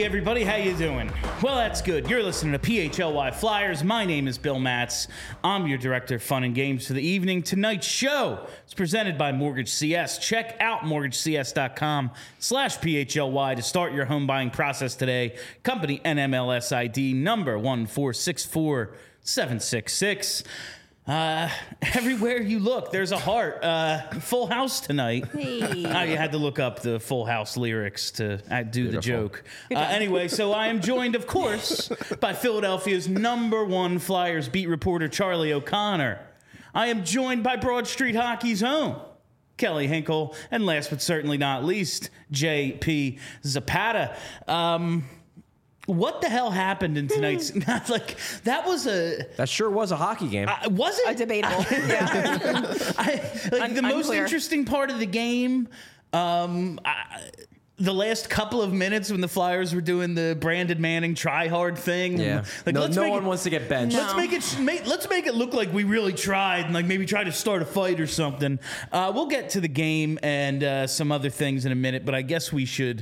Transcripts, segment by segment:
everybody, how you doing? Well, that's good. You're listening to PHLY Flyers. My name is Bill Matz. I'm your director of fun and games for the evening. Tonight's show is presented by Mortgage CS. Check out mortgagecs.com/PHLY to start your home buying process today. Company NMLS ID number 1464766. Everywhere you look, there's a heart. Full house tonight. Hey. I had to look up the Full House lyrics to do the joke. Anyway, so I am joined, of course, by Philadelphia's #1 Flyers beat reporter, Charlie O'Connor. I am joined by Broad Street Hockey's own Kelly Hinkle, and last but certainly not least, JP Zapata. What the hell happened in tonight's? That sure was a hockey game. Was it? Debatable. Yeah. The most interesting part of the game, the last couple of minutes when the Flyers were doing the Brandon Manning try hard thing. Yeah. No one wants to get benched. No. Let's make it look like we really tried and maybe try to start a fight or something. We'll get to the game and some other things in a minute, but I guess we should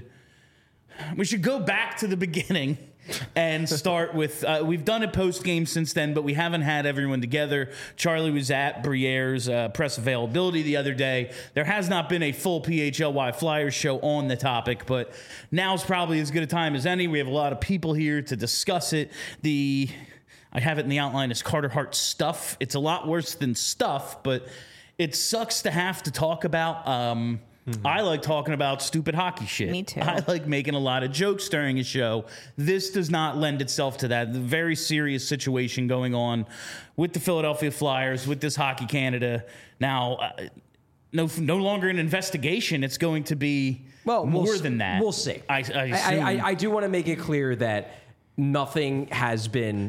go back to the beginning and start with, we've done a post-game since then, but we haven't had everyone together. Charlie was at Briere's press availability the other day. There has not been a full PHLY Flyers show on the topic, but now's probably as good a time as any. We have a lot of people here to discuss it. I have it in the outline as Carter Hart stuff. It's a lot worse than stuff, but it sucks to have to talk about. I like talking about stupid hockey shit. Me too. I like making a lot of jokes during a show. This does not lend itself to that. The very serious situation going on with the Philadelphia Flyers, with this Hockey Canada. Now, no longer an investigation. It's going to be more than that. We'll see. I do want to make it clear that nothing has been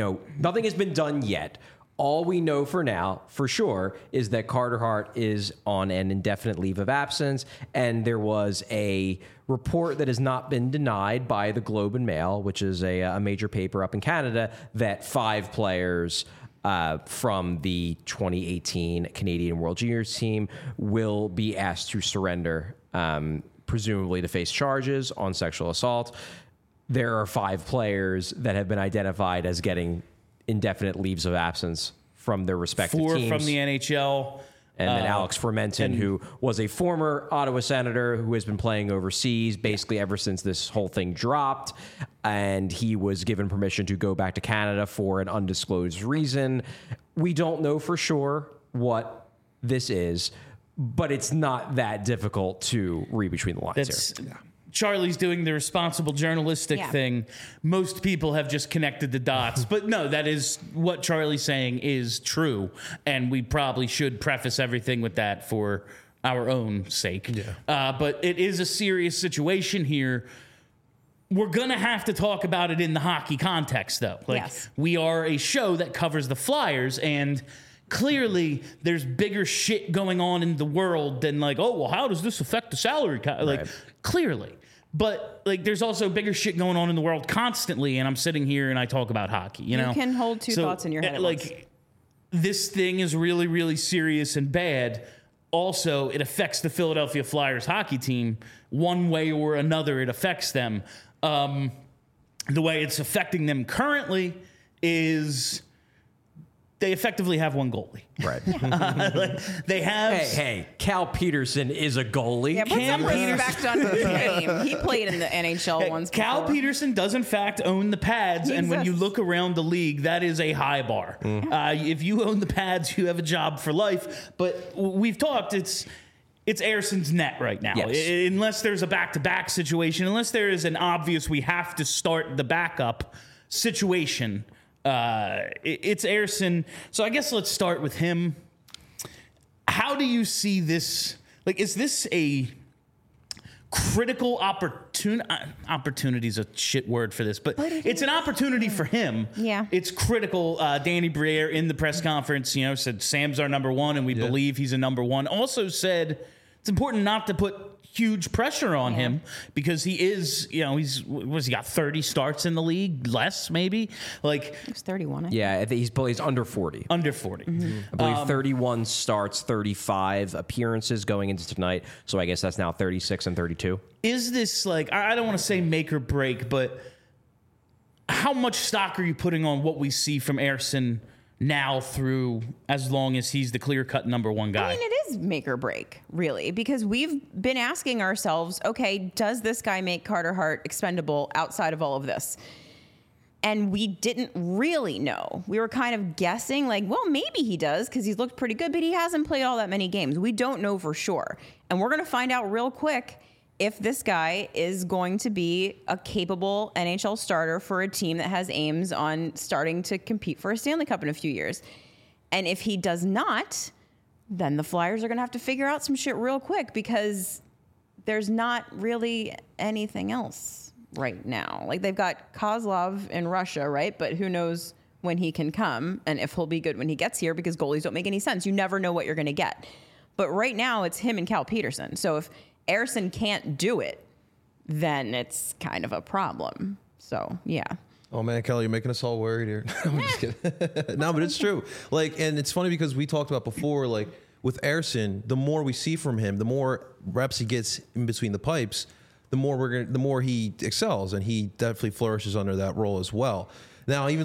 done yet. All we know for now, for sure, is that Carter Hart is on an indefinite leave of absence, and there was a report that has not been denied by the Globe and Mail, which is a major paper up in Canada, that 5 players from the 2018 Canadian World Juniors team will be asked to surrender, presumably to face charges on sexual assault. There are 5 players that have been identified as getting indefinite leaves of absence from their respective 4 teams. from the NHL. And then Alex Fermenton, who was a former Ottawa Senator who has been playing overseas basically ever since this whole thing dropped. And he was given permission to go back to Canada for an undisclosed reason. We don't know for sure what this is, but it's not that difficult to read between the lines here. Charlie's doing the responsible journalistic thing. Most people have just connected the dots. But no, that is what Charlie's saying is true. And we probably should preface everything with that for our own sake. Yeah. But it is a serious situation here. We're going to have to talk about it in the hockey context, though. We are a show that covers the Flyers, and clearly there's bigger shit going on in the world than how does this affect the salary cap? Clearly. But there's also bigger shit going on in the world constantly, and I'm sitting here and I talk about hockey. You know, can hold two thoughts in your head at once. This thing is really, really serious and bad. Also, it affects the Philadelphia Flyers hockey team one way or another. It affects them. The way it's affecting them currently is they effectively have one goalie. Right. They have. Hey, Cal Peterson is a goalie. Yeah, put some respect on his name. He played in the NHL once before. Cal Peterson does, in fact, own the pads. And when you look around the league, that is a high bar. If you own the pads, you have a job for life. But we've talked, it's Erson's net right now. Yes. Unless there's a back-to-back situation, unless there is an obvious we have to start the backup situation, it's Ersson. So I guess let's start with him. How do you see this? Is this a critical opportunity is a shit word for this, but it's an opportunity for him. Yeah. It's critical. Danny Briere in the press conference, said Sam's our #1 and we believe he's a #1. Also said it's important not to put huge pressure on him because he is, he got 30 starts in the league, less maybe. Like He's 31. Yeah, I think he's under 40. under 40. I believe 31 starts, 35 appearances going into tonight. So I guess that's now 36 and 32. Is this like, I don't want to say make or break, but how much stock are you putting on what we see from Ersson now through as long as he's the clear-cut number one guy? I mean, it is make or break, really, because we've been asking ourselves, okay, does this guy make Carter Hart expendable outside of all of this? And we didn't really know. We were kind of guessing, like, well, maybe he does because he's looked pretty good, but he hasn't played all that many games. We don't know for sure. And we're going to find out real quick if this guy is going to be a capable NHL starter for a team that has aims on starting to compete for a Stanley Cup in a few years. And if he does not, then the Flyers are going to have to figure out some shit real quick because there's not really anything else right now. Like, they've got Kozlov in Russia, right? But who knows when he can come and if he'll be good when he gets here, because goalies don't make any sense. You never know what you're going to get. But right now it's him and Cal Peterson. So if Ersson can't do it, then it's kind of a problem. So, yeah. Oh man, Kelly, you're making us all worried here. I'm just kidding. No, but it's true. Like, and it's funny because we talked about before, like with Ersson, the more we see from him, the more reps he gets in between the pipes, the more he excels, and he definitely flourishes under that role as well. Now, even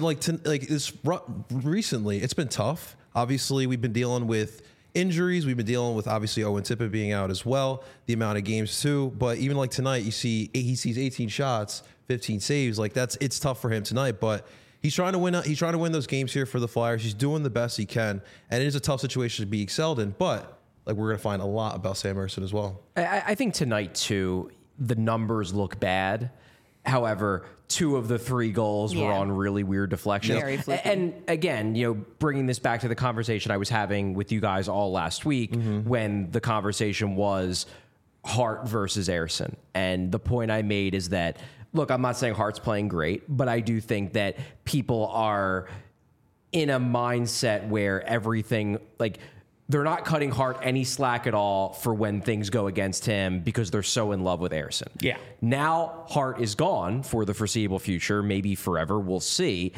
recently, it's been tough. Obviously, we've been dealing with injuries. We've been dealing with obviously Owen Tippett being out as well, the amount of games too. But even like tonight, he sees 18 shots, 15 saves. Like it's tough for him tonight, but he's trying to win. He's trying to win those games here for the Flyers. He's doing the best he can, and it is a tough situation to be excelled in. But like we're gonna find a lot about Sam Ersson as well. I think tonight too, the numbers look bad. However, 2 of the 3 goals were on really weird deflections. Very fluky. And again, bringing this back to the conversation I was having with you guys all last week when the conversation was Hart versus Ersson. And the point I made is that, look, I'm not saying Hart's playing great, but I do think that people are in a mindset where everything, like, they're not cutting Hart any slack at all for when things go against him because they're so in love with Ersson. Yeah. Now Hart is gone for the foreseeable future, maybe forever. We'll see.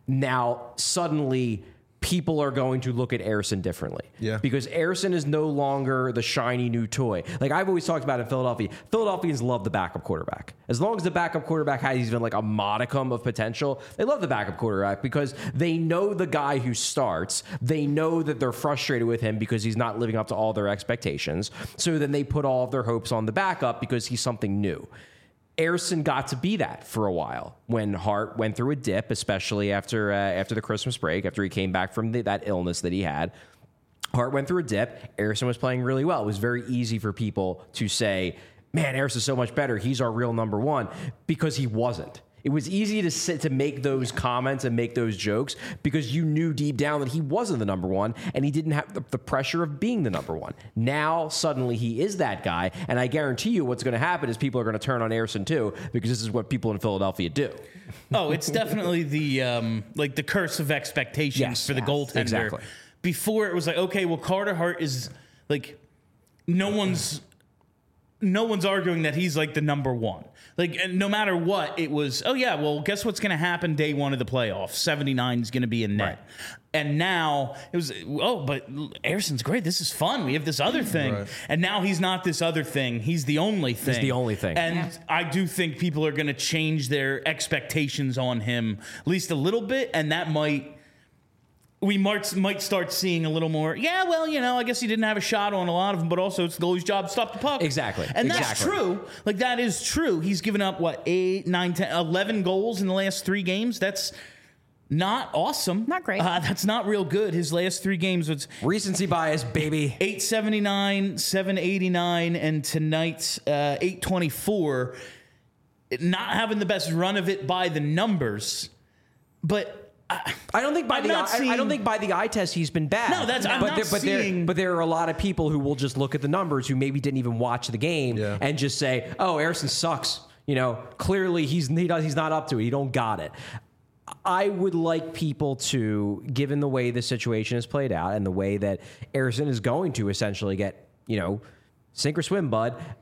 Now suddenly people are going to look at Ersson differently. Yeah. Because Ersson is no longer the shiny new toy. Like I've always talked about in Philadelphia, Philadelphians love the backup quarterback. As long as the backup quarterback has even like a modicum of potential, they love the backup quarterback because they know the guy who starts. They know that they're frustrated with him because he's not living up to all their expectations. So then they put all of their hopes on the backup because he's something new. Ersson got to be that for a while when Hart went through a dip, especially after the Christmas break, after he came back from that illness that he had. Hart went through a dip. Ersson was playing really well. It was very easy for people to say, man, Ersson's so much better. He's our real number one, because he wasn't. It was easy to make those comments and make those jokes because you knew deep down that he wasn't the number one and he didn't have the pressure of being the number one. Now, suddenly, he is that guy, and I guarantee you what's going to happen is people are going to turn on Ersson too because this is what people in Philadelphia do. Oh, it's definitely the curse of expectations for the goaltender. Exactly. Before it was like, okay, well, Carter Hart is like, no one's arguing that he's like the number one. Like, and no matter what, it was, oh yeah, well, guess what's going to happen day 1 of the playoffs? 79 is going to be in net. Right. And now it was, oh, but Ersson's great. This is fun. We have this other thing. Right. And now he's not this other thing. He's the only thing. He's the only thing. And I do think people are going to change their expectations on him at least a little bit. And that we might start seeing a little more, yeah, well, I guess he didn't have a shot on a lot of them, but also it's the goalie's job to stop the puck. Exactly. And that's true. Like, that is true. He's given up, 8, 9, 10, 11 goals in the last 3 games. That's not awesome. Not great. That's not real good. His last 3 games was recency bias, baby. 879, 789, and tonight's 824. Not having the best run of it by the numbers, but I don't think by the eye test he's been bad. No, but there are a lot of people who will just look at the numbers who maybe didn't even watch the game and just say, "Oh, Ersson sucks." Clearly he's not up to it. He don't got it. I would like people to, given the way the situation has played out and the way that Ersson is going to essentially get, sink or swim, bud.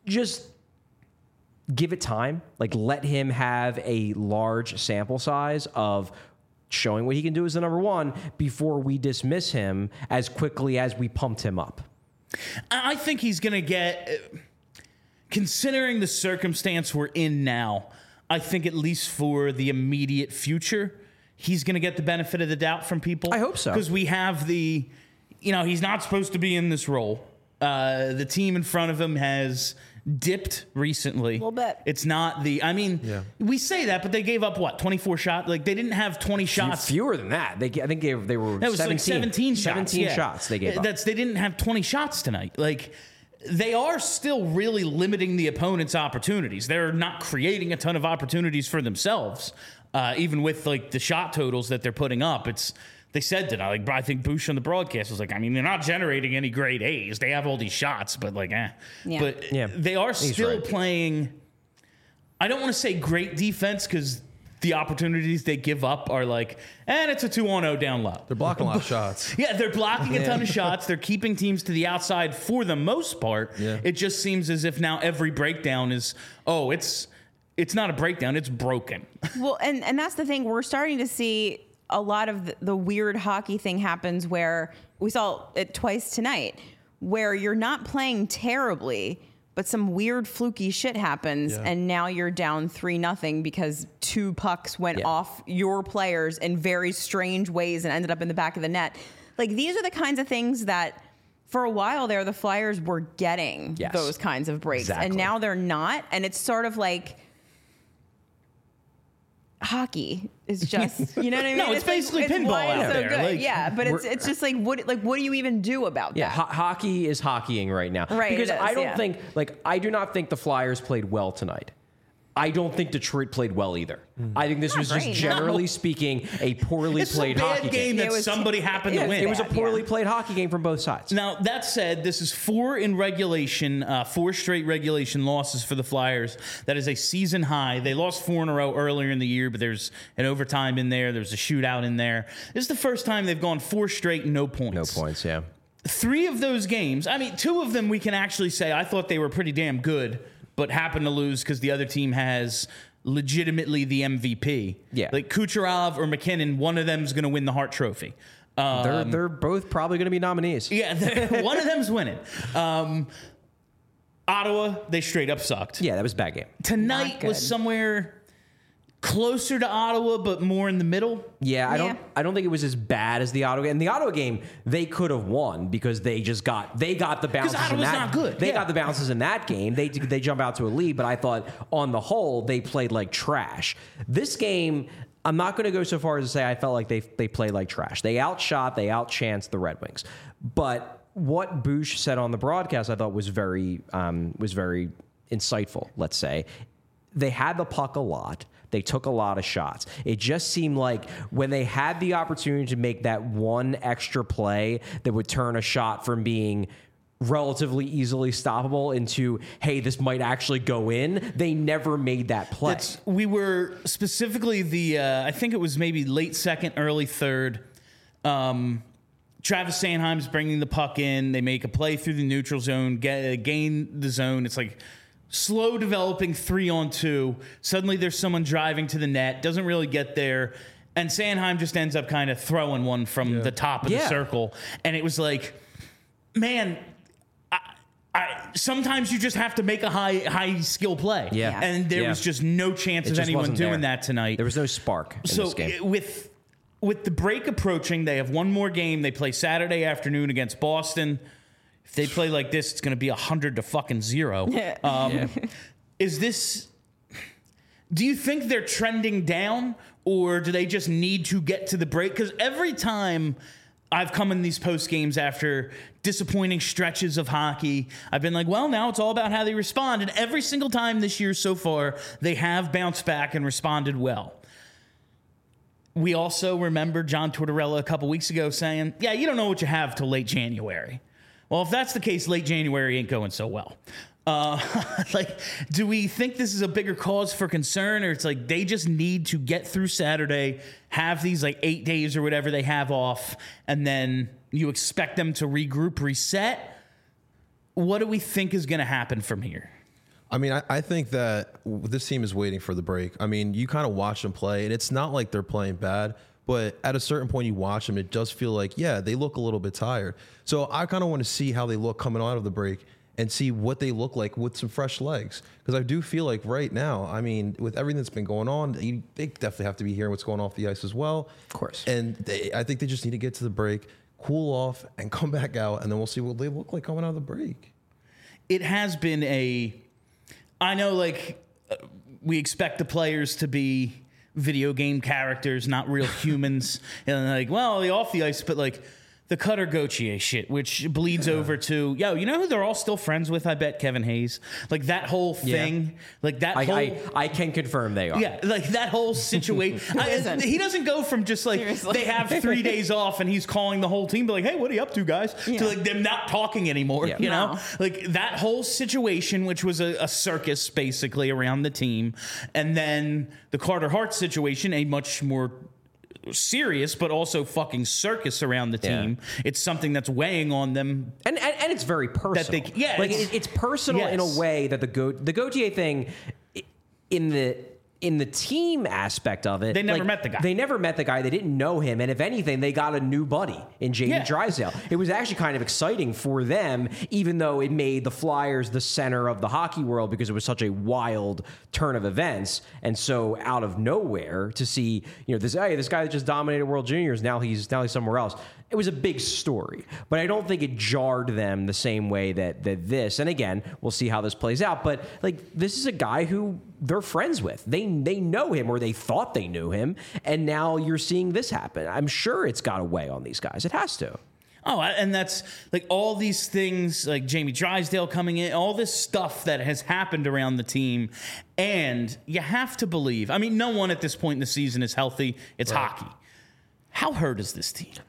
just give it time. Like, let him have a large sample size of showing what he can do as the number one before we dismiss him as quickly as we pumped him up. I think he's going to get, considering the circumstance we're in now, I think at least for the immediate future, he's going to get the benefit of the doubt from people. I hope so. Because we have he's not supposed to be in this role. The team in front of him has dipped recently. A little bit. It's not we say that, but they gave up 24 shots? Like, they didn't have 20 shots. Fewer than that. I think they were That was 17. like 17 shots. 17 shots they gave up. They didn't have 20 shots tonight. Like, they are still really limiting the opponent's opportunities. They're not creating a ton of opportunities for themselves, even with like the shot totals that they're putting up. They said tonight, like, I think Bush on the broadcast was like, I mean, they're not generating any great A's. They have all these shots, but like, Yeah. But they are still playing. I don't want to say great defense because the opportunities they give up are like, and it's a 2-on-0 down low. They're blocking a lot of shots. Yeah, they're blocking a ton of shots. They're keeping teams to the outside for the most part. Yeah. It just seems as if now every breakdown is, it's not a breakdown, it's broken. Well, and that's the thing. We're starting to see a lot of the weird hockey thing happens where we saw it twice tonight, where you're not playing terribly, but some weird fluky shit happens, and now you're down 3-0 because 2 pucks went off your players in very strange ways and ended up in the back of the net. Like, these are the kinds of things that for a while there, the Flyers were getting those kinds of breaks, and now they're not. And it's sort of like hockey is just, you know what I mean? No, it's basically like, pinball why it's out so there. good. Like, yeah, but it's just like what do you even do about Yeah, that? hockey is hockeying right now. Right, Because it is, I don't think, I do not think the Flyers played well tonight. I don't think Detroit played well either. I think this was just great, generally speaking a poorly It's played a bad hockey game game. that It was- somebody happened to win. It was a bad, poorly played hockey game from both sides. Now, that said, this is 4 in regulation, 4 straight regulation losses for the Flyers. That is a season high. They lost 4 in a row earlier in the year, but there's an overtime in there. There's a shootout in there. This is the first time they've gone 4 straight, no points. No points, yeah. 3 of those games, 2 of them we can actually say I thought they were pretty damn good, but happened to lose because the other team has legitimately the MVP. Yeah. Like Kucherov or McKinnon, one of them is going to win the Hart Trophy. They're both probably going to be nominees. Yeah, one of them's winning. Ottawa, they straight up sucked. Yeah, that was a bad game. Tonight Not was good. somewhere closer to Ottawa, but more in the middle. Yeah, I don't think it was as bad as the Ottawa game. And the Ottawa game, they could have won because they got the bounces in Ottawa's that. not good. They Yeah. got the bounces in that game. They jump out to a lead, but I thought on the whole they played like trash. This game, I'm not going to go so far as to say I felt like they played like trash. They outchanced the Red Wings. But what Bush said on the broadcast I thought was very insightful, let's say. They had the puck a lot. They took a lot of shots. It just seemed like when they had the opportunity to make that one extra play that would turn a shot from being relatively easily stoppable into, hey, this might actually go in, they never made that play. We were specifically I think it was maybe late second, early third. Travis Sanheim's bringing the puck in. They make a play through the neutral zone, gain the zone. It's like slow developing 3-on-2. Suddenly there's someone driving to the net, doesn't really get there. And Sanheim just ends up kind of throwing one from the top of the circle. And it was like, man, sometimes you just have to make a high skill play. Yeah. And there was just no chance It of just anyone wasn't doing there. that tonight. There was no spark in this game. With the break approaching, they have one more game. They play Saturday afternoon against Boston. If they play like this, it's going to be 100-0. Is this? Do you think they're trending down, or do they just need to get to the break? Because every time I've come in these post games after disappointing stretches of hockey, I've been like, well, now it's all about how they respond. And every single time this year so far, they have bounced back and responded well. We also remember John Tortorella a couple weeks ago saying, yeah, you don't know what you have till late January. Well, if that's the case, late January ain't going so well. Do we think this is a bigger cause for concern, or it's like they just need to get through Saturday, have these 8 days or whatever they have off, and then you expect them to regroup, reset? What do we think is going to happen from here? I mean, I think that this team is waiting for the break. I mean, you kind of watch them play, and it's not like they're playing bad, but at a certain point you watch them, it does feel like, yeah, they look a little bit tired. So I kind of want to see how they look coming out of the break and see what they look like with some fresh legs. Because I do feel like right now, I mean, with everything that's been going on, they definitely have to be hearing what's going off the ice as well. Of course. And I think they just need to get to the break, cool off, and come back out, and then we'll see what they look like coming out of the break. It has been I know, like, we expect the players to be video game characters, not real humans. And like, well, they off the ice, but like the Cutter Gauthier shit, which bleeds over to, you know who they're all still friends with? I bet Kevin Hayes. Like that whole thing, like that I can confirm they are. Yeah, like that whole situation. He doesn't go from just like they have 3 days off and he's calling the whole team, be like, hey, what are you up to, guys? To like them not talking anymore. You know, like that whole situation, which was a circus basically around the team, and then the Carter Hart situation, a much more serious but also fucking circus around the team. It's something that's weighing on them, and it's very personal. It's personal in a way that the Gauthier thing in the team aspect of it, they never met the guy. They never met the guy. They didn't know him, and if anything, they got a new buddy in Jamie Drysdale. It was actually kind of exciting for them, even though it made the Flyers the center of the hockey world because it was such a wild turn of events. And so, out of nowhere, to see this guy that just dominated World Juniors, now he's somewhere else. It was a big story, but I don't think it jarred them the same way that this. And again, we'll see how this plays out. But like, this is a guy who they're friends with. They know him, or they thought they knew him, and now you're seeing this happen. I'm sure it's got to weigh on these guys. It has to. Oh, and that's like all these things, like Jamie Drysdale coming in, all this stuff that has happened around the team. And you have to believe, I mean, no one at this point in the season is healthy. It's hockey. How hurt is this team?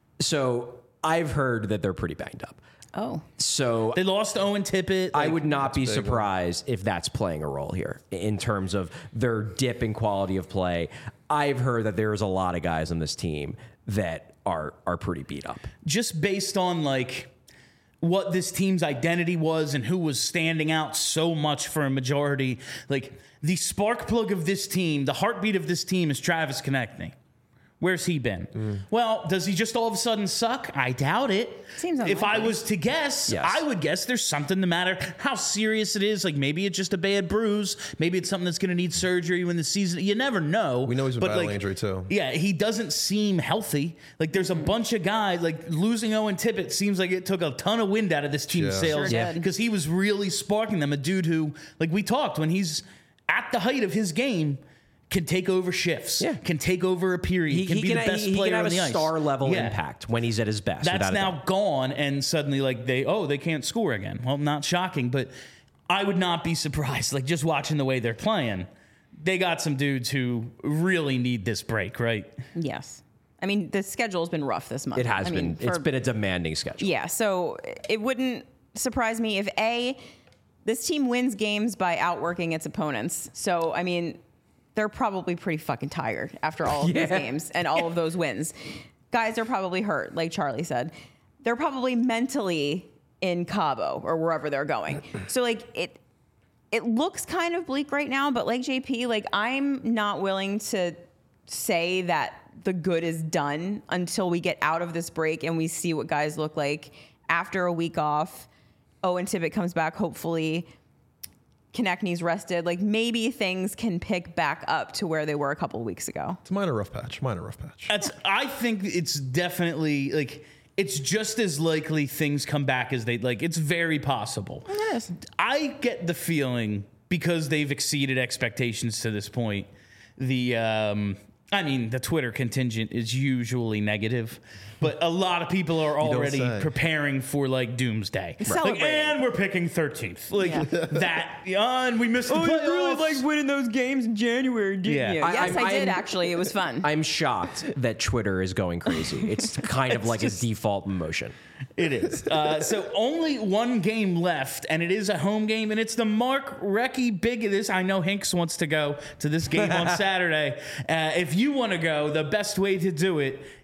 So I've heard that they're pretty banged up. Oh. So they lost Owen Tippett. I would not be surprised if that's playing a role here in terms of their dip in quality of play. I've heard that there's a lot of guys on this team that are pretty beat up. Just based on like what this team's identity was and who was standing out so much for a majority. Like the spark plug of this team, the heartbeat of this team is Travis Konechny. Where's he been? Well, does he just all of a sudden suck? I doubt it. Seems unlikely. If I was to guess, I would guess there's something the matter. How serious it is. Like maybe it's just a bad bruise. Maybe it's something that's going to need surgery when the season. You never know. We know he's been battling injury too. Yeah, he doesn't seem healthy. Like there's a bunch of guys. Like losing Owen Tippett seems like it took a ton of wind out of this team's sails because he was really sparking them. A dude who, like we talked, when he's at the height of his game, can take over shifts, can take over a period, can be the best player on the ice. He can have a star-level impact when he's at his best. That's now gone, and suddenly, like, they can't score again. Well, not shocking, but I would not be surprised. Like, just watching the way they're playing, they got some dudes who really need this break, right? Yes. I mean, the schedule's been rough this month. It has been. It's been a demanding schedule. Yeah, so it wouldn't surprise me if, this team wins games by outworking its opponents. So, I mean, they're probably pretty fucking tired after all of these games and all of those wins. Guys are probably hurt, like Charlie said. They're probably mentally in Cabo or wherever they're going. So, like, it looks kind of bleak right now, but like JP, like, I'm not willing to say that the good is done until we get out of this break and we see what guys look like after a week off. Owen Tippett comes back, hopefully. Konechny's rested. Like, maybe things can pick back up to where they were a couple of weeks ago. It's a minor rough patch. I think it's definitely, like, it's just as likely things come back as they, like, it's very possible. It is. I get the feeling, because they've exceeded expectations to this point, the Twitter contingent is usually negative, but a lot of people are already preparing for like doomsday. Like, and we're picking 13th. Like and we missed the playoffs. You really like winning those games in January, didn't you? Yes, I did actually. It was fun. I'm shocked that Twitter is going crazy. It's kind of like a default motion. It is. So only one game left, and it is a home game, and it's the Mark Recchi Big. I know Hinks wants to go to this game on Saturday. If you want to go, the best way to do it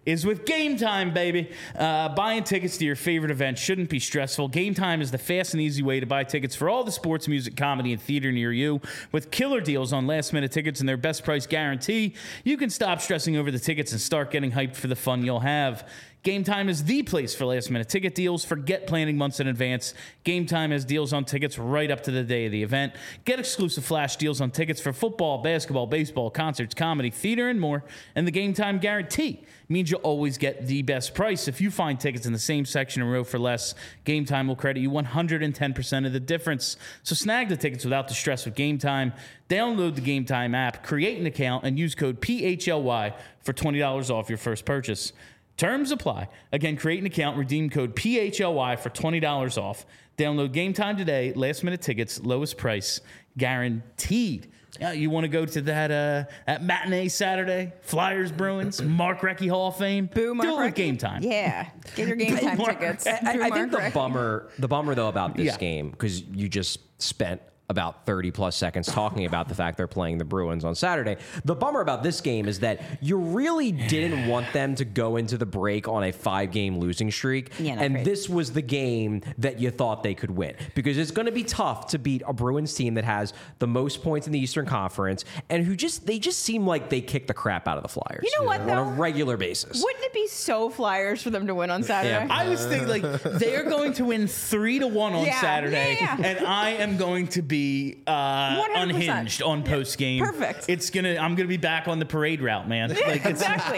is with Game Time, baby. Buying tickets to your favorite event shouldn't be stressful. Game Time is the fast and easy way to buy tickets for all the sports, music, comedy, and theater near you. With killer deals on last-minute tickets and their best price guarantee, you can stop stressing over the tickets and start getting hyped for the fun you'll have. Game Time is the place for last-minute ticket deals. Forget planning months in advance. Game Time has deals on tickets right up to the day of the event. Get exclusive flash deals on tickets for football, basketball, baseball, concerts, comedy, theater, and more. And the Game Time guarantee means you'll always get the best price. If you find tickets in the same section and row for less, Game Time will credit you 110% of the difference. So snag the tickets without the stress with Game Time. Download the Game Time app, create an account, and use code PHLY for $20 off your first purchase. Terms apply. Again, create an account, redeem code PHLY for $20 off. Download Game Time today. Last minute tickets, lowest price, guaranteed. Yeah, you want to go to that matinee Saturday? Flyers, Bruins, Mark Recchi Hall of Fame. Boo, Mark Do it with Recchi. Game Time. Yeah, get your Game Time Mark- tickets. I think the bummer though about this Yeah. game, because you just spent about 30 plus seconds talking about the fact they're playing the Bruins on Saturday. The bummer about this game is that you really didn't want them to go into the break on a 5-game losing streak. Yeah, not and great. this was the game that you thought they could win, because it's going to be tough to beat a Bruins team that has the most points in the Eastern Conference and they just seem like they kick the crap out of the Flyers. You know what, on though? a regular basis. Wouldn't it be so Flyers for them to win on Saturday? Yeah. I was thinking, like, they're going to win 3-1 on Yeah, Saturday, yeah. and I am going to be 100%. unhinged on post game. Perfect. I'm gonna be back on the parade route, man. Like, it's, Exactly.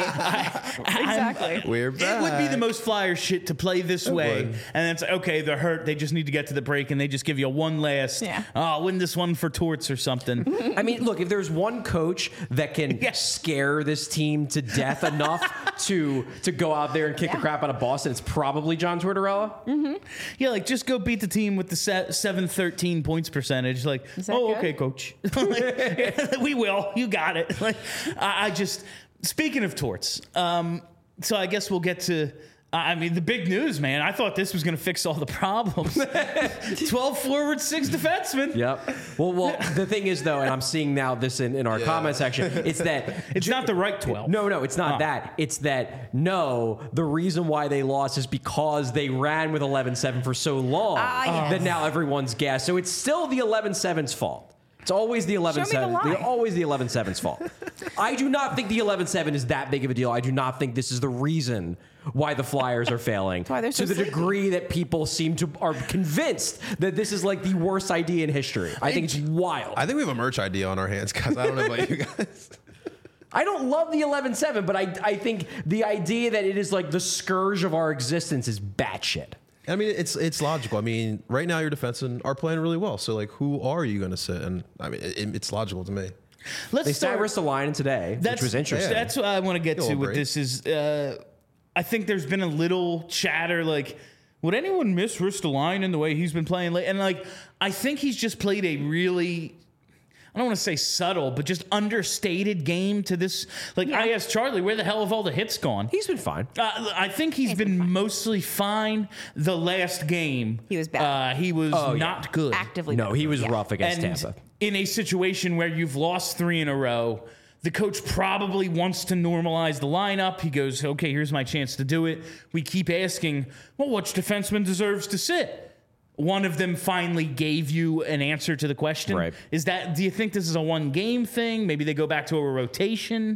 Exactly. We're back. It would be the most Flyer shit to play this way, would. and it's okay. They're hurt. They just need to get to the break, and they just give you one last. Yeah. Oh, win this one for Torts or something. I mean, look, if there's one coach that can Yes. scare this team to death enough to go out there and kick the crap out of Boston, it's probably John Tortorella. Yeah, like just go beat the team with the 713 points percentage. Like, Is that oh, good? okay, coach. Like, we will. You got it. Like, I just speaking of Torts. So I guess we'll get to. I mean, the big news, man. I thought this was going to fix all the problems. 12 forward, 6 defensemen. Yep. Well, the thing is, though, and I'm seeing now this in our comment section, it's that It's not the right 12. No, it's not that. It's that, the reason why they lost is because they ran with 11-7 for so long Yes. that now everyone's gassed. So it's still the 11-7's fault. It's always the 11-7. Show me the lie. Always the 11-7's fault. I do not think the 11-7 is that big of a deal. I do not think this is the reason why the Flyers are failing. why they're so to the sleepy. degree that people are convinced that this is like the worst idea in history. I think it's wild. I think we have a merch idea on our hands, guys. I don't know about you guys. I don't love the 11-7, but I think the idea that it is like the scourge of our existence is batshit. I mean, it's logical. I mean, right now your defensemen are playing really well. So, like, who are you going to sit? And I mean, it's logical to me. Let's They start. sat Ristolainen today, which was interesting. yeah. That's what I want to get A to little with break. this is I think there's been a little chatter like, would anyone miss Ristolainen the way he's been playing late? And like, I think he's just played a really, I don't want to say subtle, but just understated game to this. Like, I asked Charlie, where the hell have all the hits gone? He's been fine. I think he's been mostly fine. The last game, He was bad. He was yeah. not good. Actively. No, he was Yeah. rough against And Tampa. in a situation where you've lost 3 in a row, the coach probably wants to normalize the lineup. He goes, okay, here's my chance to do it. We keep asking, well, which defenseman deserves to sit? One of them finally gave you an answer to the question. Right. Do you think this is a 1-game thing? Maybe they go back to a rotation?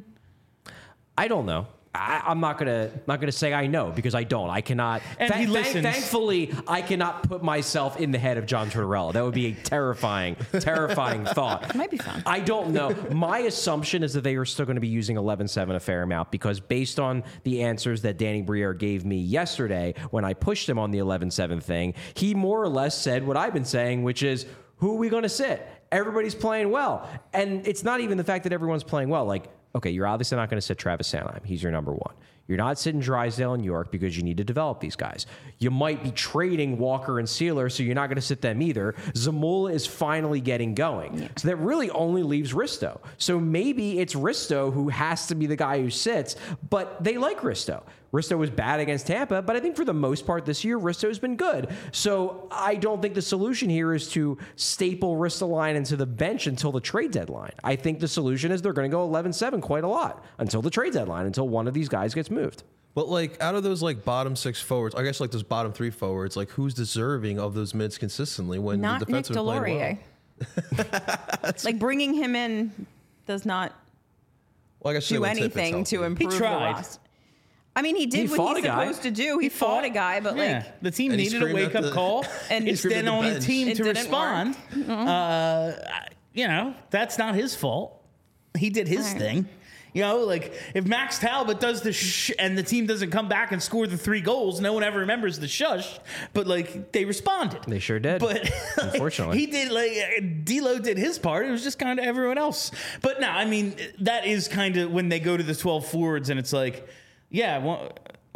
I don't know. I'm not gonna say I know, because I don't. I cannot. And he listens. Thankfully, I cannot put myself in the head of John Tortorella. That would be a terrifying thought. Might be fun. I don't know. My assumption is that they are still going to be using 11-7 a fair amount, because based on the answers that Danny Briere gave me yesterday when I pushed him on the 11-7 thing, he more or less said what I've been saying, which is, who are we going to sit? Everybody's playing well. And it's not even the fact that everyone's playing well. Like, okay, you're obviously not going to sit Travis Sanheim. He's your number one. You're not sitting Drysdale and York because you need to develop these guys. You might be trading Walker and Sealer, so you're not going to sit them either. Zamula is finally getting going. Yeah. So that really only leaves Risto. So maybe it's Risto who has to be the guy who sits, but they like Risto. Risto was bad against Tampa, but I think for the most part this year, Risto has been good. So I don't think the solution here is to staple Ristolainen to the bench until the trade deadline. I think the solution is they're going to go 11-7 quite a lot until the trade deadline, until one of these guys gets moved. But like out of those like bottom 6 forwards, I guess like those bottom 3 forwards, like who's deserving of those minutes consistently when Not the defense Nick have been playing well? Delorier. Like bringing him in does not Well, I guess do anything to improve the tried. roster. I mean, he did what fought he's a guy. supposed to do. He fought a guy, but Yeah. like the team And he needed a screamed at wake-up the- call. And it's he then screamed at on the the bench. team It to didn't respond. That's not his fault. He did his Right. thing. Like if Max Talbot does the and the team doesn't come back and score the 3 goals, no one ever remembers the shush. But like they responded. They sure did. But Unfortunately. he did. Like D'Lo did his part. It was just kind of everyone else. But no, I mean that is kind of when they go to the 12 forwards and it's like, yeah, well,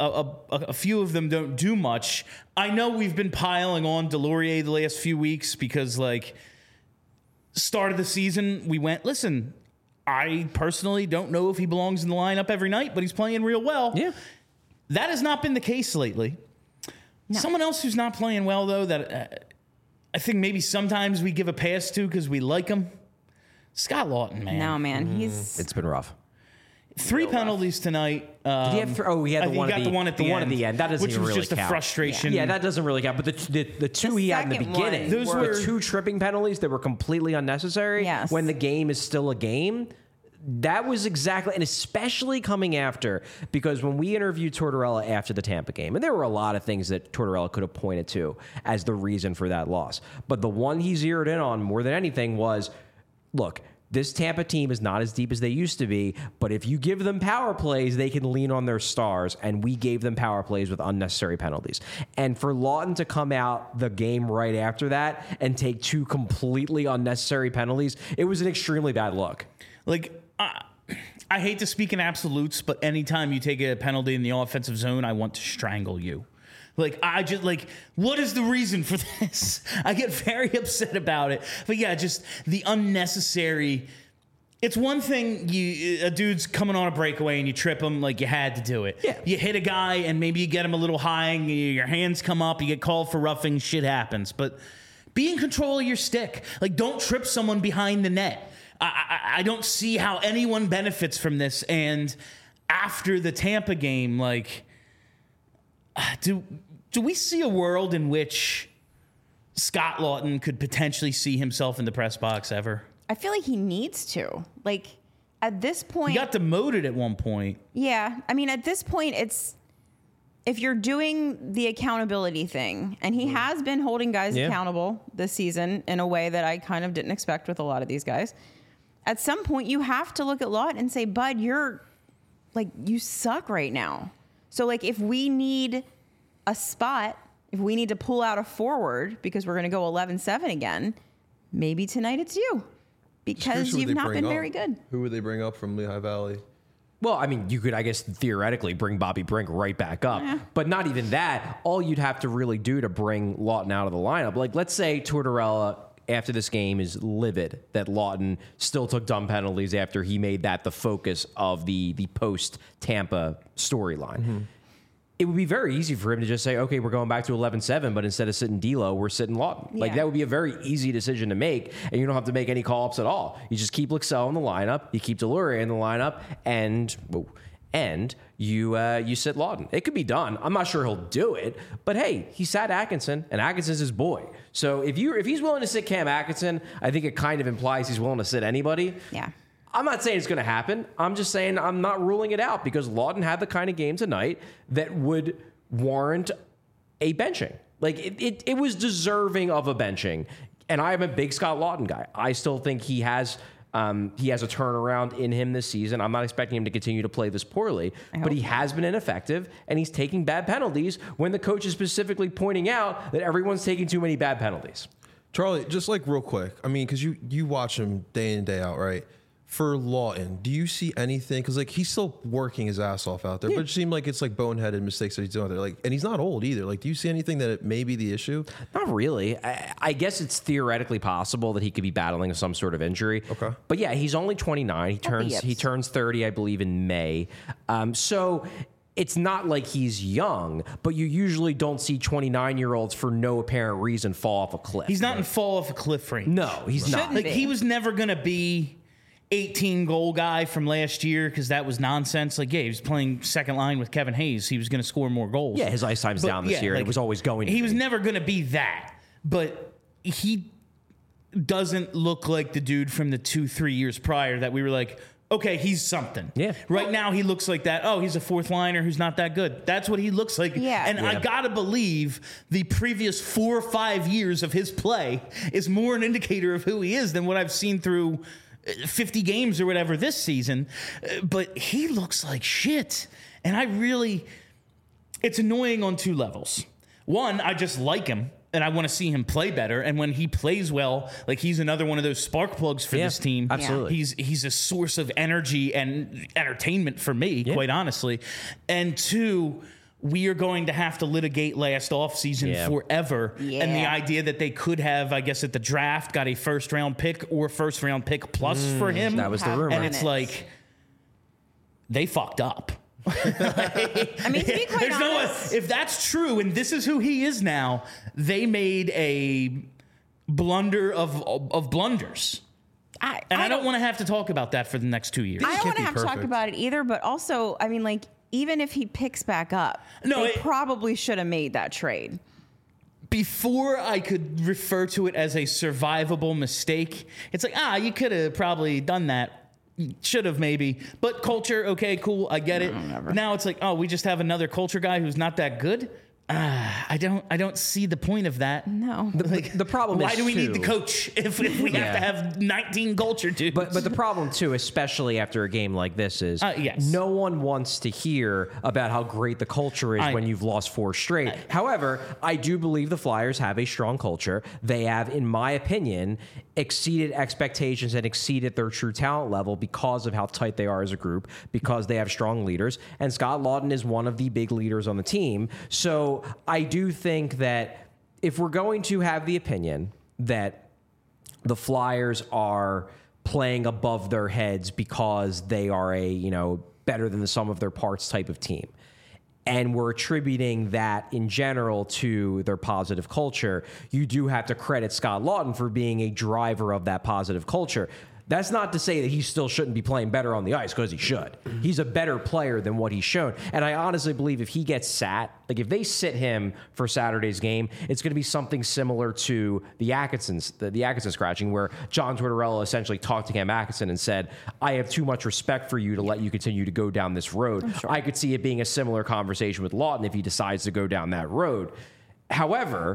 a few of them don't do much. I know we've been piling on Delorier the last few weeks because like start of the season we went, listen, I personally don't know if he belongs in the lineup every night, but he's playing real well. Yeah. That has not been the case lately. No. Someone else who's not playing well, though, that I think maybe sometimes we give a pass to because we like him, Scott Lawton, man. no, man, he's It's been rough. 3 penalties tonight. Did he have he had the one at the one at the one end. at the end. That doesn't which even was really just count. a frustration. Yeah, that doesn't really count. But the 2 The he had in the second beginning, one Those the were- 2 tripping penalties that were completely unnecessary. Yes. When the game is still a game. That was exactly, and especially coming after, because when we interviewed Tortorella after the Tampa game, and there were a lot of things that Tortorella could have pointed to as the reason for that loss. But the one he zeroed in on more than anything was, look, this Tampa team is not as deep as they used to be, but if you give them power plays, they can lean on their stars, and we gave them power plays with unnecessary penalties. And for Lawton to come out the game right after that and take 2 completely unnecessary penalties, it was an extremely bad look. Like, I hate to speak in absolutes, but anytime you take a penalty in the offensive zone, I want to strangle you. Like, I just, like, what is the reason for this? I get very upset about it. But yeah, just the unnecessary. It's one thing a dude's coming on a breakaway and you trip him, like you had to do it. Yeah. You hit a guy and maybe you get him a little high and your hands come up, you get called for roughing, shit happens. But be in control of your stick. Like, don't trip someone behind the net. I don't see how anyone benefits from this. And after the Tampa game, like, do we see a world in which Scott Lawton could potentially see himself in the press box ever? I feel like he needs to. Like at this point, He got demoted at one point. yeah. I mean, at this point, it's if you're doing the accountability thing, and he has been holding guys Yeah. accountable this season in a way that I kind of didn't expect with a lot of these guys. At some point, you have to look at Lawton and say, "Bud, you suck right now." So, like, if we need a spot, if we need to pull out a forward because we're going to go 11-7 again, maybe tonight it's you because Who would you've they not bring been up? very good. Who would they bring up from Lehigh Valley? Well, I mean, you could, I guess, theoretically bring Bobby Brink right back up. But not even that. All you'd have to really do to bring Lawton out of the lineup, like, let's say Tortorella, after this game, is livid that Lawton still took dumb penalties after he made that the focus of the post-Tampa storyline. It would be very easy for him to just say, okay, we're going back to 11-7, but instead of sitting D'Lo, we're sitting Lawton. Like, Yeah. that would be a very easy decision to make, and you don't have to make any call-ups at all. You just keep Lixell in the lineup, you keep Delorier in the lineup, and you sit Lawton. It could be done. I'm not sure he'll do it, but hey, he sat Atkinson, and Atkinson's his boy. So if he's willing to sit Cam Atkinson, I think it kind of implies he's willing to sit anybody. Yeah. I'm not saying it's going to happen. I'm just saying I'm not ruling it out because Lawton had the kind of game tonight that would warrant a benching. Like, it was deserving of a benching. And I am a big Scott Lawton guy. I still think he has a turnaround in him this season. I'm not expecting him to continue to play this poorly, but he has been ineffective, and he's taking bad penalties when the coach is specifically pointing out that everyone's taking too many bad penalties. Charlie, just like real quick, I mean, because you watch him day in, day out, right? For Lawton, do you see anything? Because like he's still working his ass off out there, but it seemed like it's like boneheaded mistakes that he's doing out there. Like, and he's not old either. Like, do you see anything that it may be the issue? Not really. I guess it's theoretically possible that he could be battling some sort of injury. Okay. But yeah, he's only 29. He turns 30, I believe, in May. So it's not like he's young, but you usually don't see 29-year-olds for no apparent reason fall off a cliff. He's not in fall off a cliff range. No, he's not. Shouldn't Like, be. he was never going to be 18 goal guy from last year because that was nonsense. Like, yeah, he was playing second line with Kevin Hayes. He was going to score more goals. Yeah, his ice time's down this year. It was always going to He be. was never going to be that. But he doesn't look like the dude from the 2-3 years prior that we were like, okay, he's something. Yeah. Right now he looks like that. Oh, he's a fourth liner who's not that good. That's what he looks like. Yeah. And I gotta believe the previous 4 or 5 years of his play is more an indicator of who he is than what I've seen through 50 games or whatever this season. But he looks like shit. And it's annoying on 2 levels. One, I just like him. And I want to see him play better. And when he plays well, like he's another one of those spark plugs for this team. Absolutely. He's a source of energy and entertainment for me, quite honestly. And 2, we are going to have to litigate last offseason forever. Yeah. And the idea that they could have, I guess, at the draft, got a first-round pick or first-round pick plus for him. That was the rumor. And it's like, they fucked up. I mean, to be quite honest, If that's true, and this is who he is now, they made a blunder of blunders. I don't want to have to talk about that for the next 2 years. I don't can't want to be have to talk perfect. about it either, but also, I mean, like, even if he picks back up, No, they probably should have made that trade. Before I could refer to it as a survivable mistake, it's like, you could have probably done that. Should have maybe, but culture, okay, cool, I get it. Now it's like, we just have another culture guy who's not that good. I don't see the point of that. No. The problem Why is, do we need the too- coach if we have to have 19 culture dudes? But the problem too, especially after a game like this, is yes. no one wants to hear about how great the culture is when you've lost 4 straight. However, I do believe the Flyers have a strong culture. They have, in my opinion, exceeded expectations and exceeded their true talent level because of how tight they are as a group, because they have strong leaders. And Scott Laughton is one of the big leaders on the team. So I do think that if we're going to have the opinion that the Flyers are playing above their heads because they are a, better than the sum of their parts type of team, and we're attributing that in general to their positive culture, you do have to credit Scott Laughton for being a driver of that positive culture. That's not to say that he still shouldn't be playing better on the ice, because he should. He's a better player than what he's shown. And I honestly believe if he gets sat, like if they sit him for Saturday's game, it's going to be something similar to the Atkinson scratching, where John Tortorella essentially talked to Cam Atkinson and said, I have too much respect for you to let you continue to go down this road. I could see it being a similar conversation with Laughton if he decides to go down that road. However,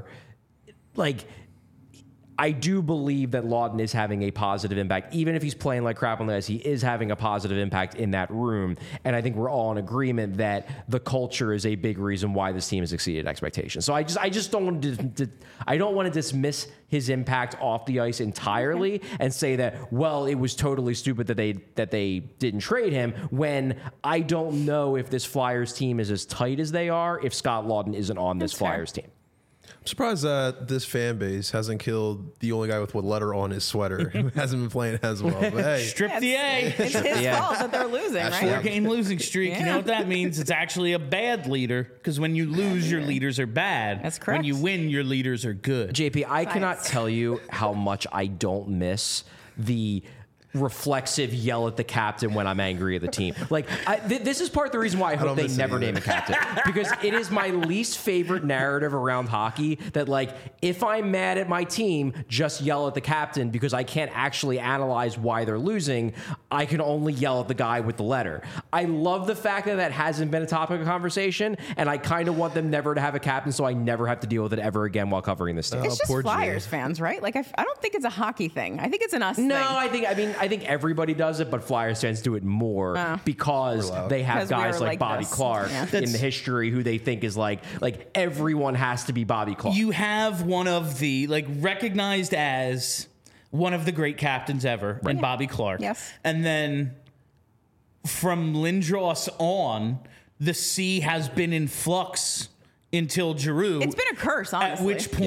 I do believe that Laughton is having a positive impact. Even if he's playing like crap on the ice, he is having a positive impact in that room. And I think we're all in agreement that the culture is a big reason why this team has exceeded expectations. So I just don't want to dismiss his impact off the ice entirely and say that, well, it was totally stupid that they didn't trade him, when I don't know if this Flyers team is as tight as they are if Scott Laughton isn't on this Flyers team. I'm surprised that this fan base hasn't killed the only guy with what letter on his sweater who hasn't been playing as well. But hey, Strip the A. It's his fault that they're losing, right? 4-game losing streak. You Yeah. know what that means? It's actually a bad leader, because when you lose, your leaders are bad. That's correct. When you win, your leaders are good. JP, I cannot Science. tell you how much I don't miss the reflexive yell at the captain when I'm angry at the team. This is part of the reason why I hope don't they miss it never either. name a captain, because it is my least favorite narrative around hockey that, if I'm mad at my team, just yell at the captain, because I can't actually analyze why they're losing. I can only yell at the guy with the letter. I love the fact that hasn't been a topic of conversation, and I kind of want them never to have a captain, so I never have to deal with it ever again while covering this team. It's just poor G. Flyers fans, right? I don't think it's a hockey thing. I think it's an us thing. No, I think everybody does it, but Flyers fans do it more because they have Because we guys were like like Bobby this. Clark Yeah. in the history who they think is like everyone has to be Bobby Clark. You have one of the recognized as one of the great captains ever, in Bobby Clark. Yes. And then from Lindros on, the sea has been in flux until Giroux. It's been a curse, honestly. At which point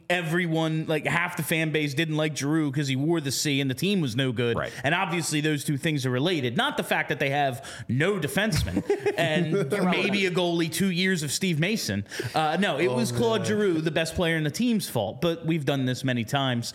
everyone, like half the fan base didn't like Giroux because he wore the C and the team was no good. Right. And obviously those two things are related. Not the fact that they have no defensemen and maybe a goalie, 2 years of Steve Mason. No, it was Claude Giroux, the best player in the team's fault. But we've done this many times.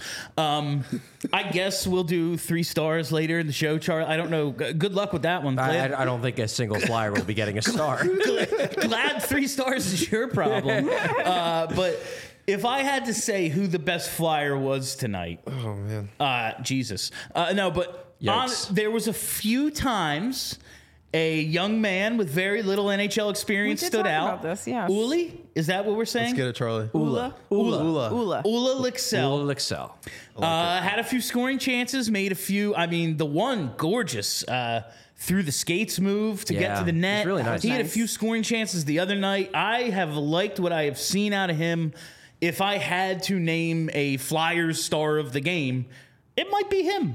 I guess we'll do 3 stars later in the show, Charlie. I don't know. Good luck with that one. I don't think a single flyer will be getting a star. Glad 3 stars is your problem. But if I had to say who the best flyer was tonight, Oh man. Jesus. No, but Yikes. there was a few times a young man with very little NHL experience We did stood talk out. about this, yes. Uli? Is that what we're saying? Let's get it, Charlie. Ula. Ula Lixell. Will excel. Had a few scoring chances, made a few. I mean, the one gorgeous through the skates move to get Yeah, to the net. it's really nice. He had a Nice. few scoring chances the other night. I have liked what I have seen out of him. If I had to name a Flyers star of the game, it might be him.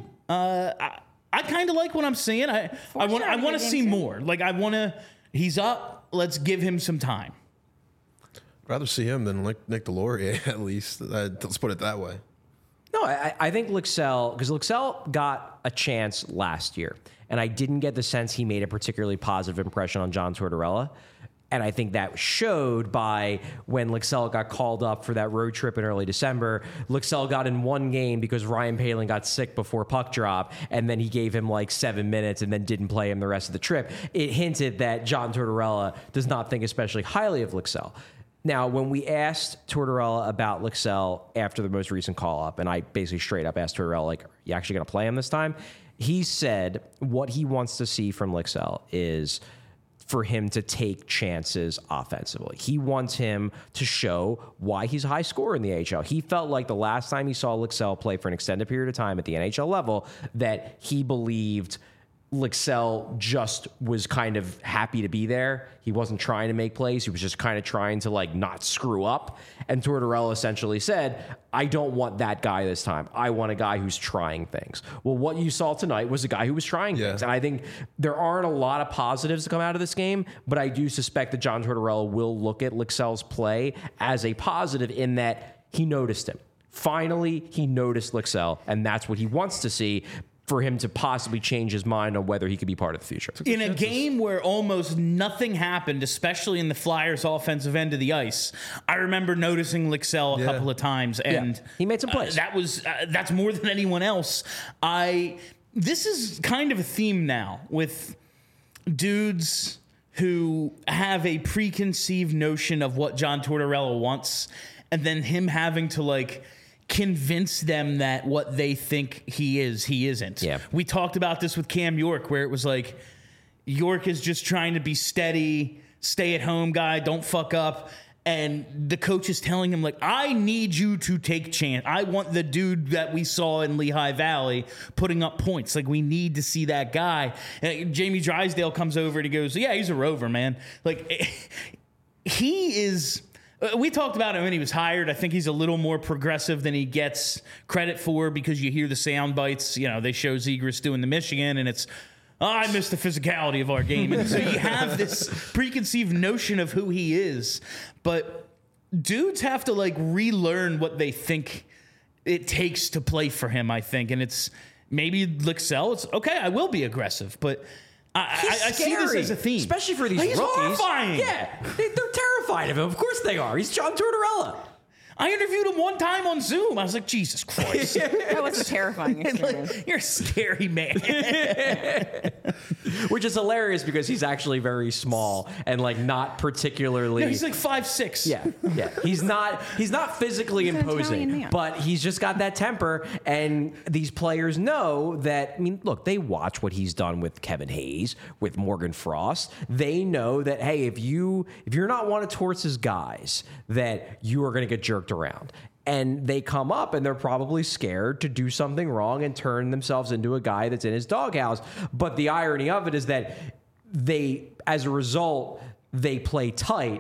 I kind of like what I'm seeing. I want sure, to good see game, too. more. Like I want to. He's up. Let's give him some time. I'd rather see him than Nick Delorier, at least. Let's put it that way. No, I think Lixell, because Lixell got a chance last year, and I didn't get the sense he made a particularly positive impression on John Tortorella. And I think that showed by when Lixell got called up for that road trip in early December. Lixell got in one game because Ryan Poehling got sick before puck drop, and then he gave him like 7 minutes and then didn't play him the rest of the trip. It hinted that John Tortorella does not think especially highly of Lixell. Now, when we asked Tortorella about Lixell after the most recent call-up, and I basically straight up asked Tortorella, like, are you actually going to play him this time? He said what he wants to see from Lixell is for him to take chances offensively. He wants him to show why he's a high scorer in the AHL. He felt like the last time he saw Lixell play for an extended period of time at the NHL level that he believed Lixell just was kind of happy to be there. He wasn't trying to make plays. He was just kind of trying to like not screw up. And Tortorella essentially said, I don't want that guy this time. I want a guy who's trying things. Well, what you saw tonight was a guy who was trying things. And I think there aren't a lot of positives to come out of this game, but I do suspect that John Tortorella will look at Lixell's play as a positive in that he noticed him. Finally, he noticed Lixell, and that's what he wants to see for him to possibly change his mind on whether he could be part of the future. In a game where almost nothing happened, especially in the Flyers' offensive end of the ice, I remember noticing Lixell a couple of times, and he made some plays. That's more than anyone else. This is kind of a theme now with dudes who have a preconceived notion of what John Tortorella wants, and then him having to like convince them that what they think he is, he isn't. Yeah. We talked about this with Cam York, where it was like, York is just trying to be steady, stay at home guy, don't fuck up. And the coach is telling him, like, I need you to take chance. I want the dude that we saw in Lehigh Valley putting up points. Like, we need to see that guy. And Jamie Drysdale comes over and he goes, yeah, he's a rover, man. Like, he is... We talked about him when he was hired. I think he's a little more progressive than he gets credit for because you hear the sound bites. You know, they show Zegras doing the Michigan, and it's, I miss the physicality of our game. And so you have this preconceived notion of who he is. But dudes have to, like, relearn what they think it takes to play for him, I think. And it's maybe Lixell. It's, okay, I will be aggressive, but... I see this as a theme. Especially for these He's rookies. horrifying. Yeah, they're terrified of him. Of course they are. He's John Tortorella. I interviewed him one time on Zoom. I was like, Jesus Christ. That was a terrifying experience. Like, you're a scary man. Which is hilarious because he's actually very small and like not particularly. No, he's like 5'6". Yeah. He's not physically He's an Italian imposing, man. but he's just got that temper. And these players know that. I mean, look, they watch what he's done with Kevin Hayes, with Morgan Frost. They know that, hey, if you're not one of Torts' guys, that you are going to get jerked around. And they come up and they're probably scared to do something wrong and turn themselves into a guy that's in his doghouse. But the irony of it is that as a result, they play tight.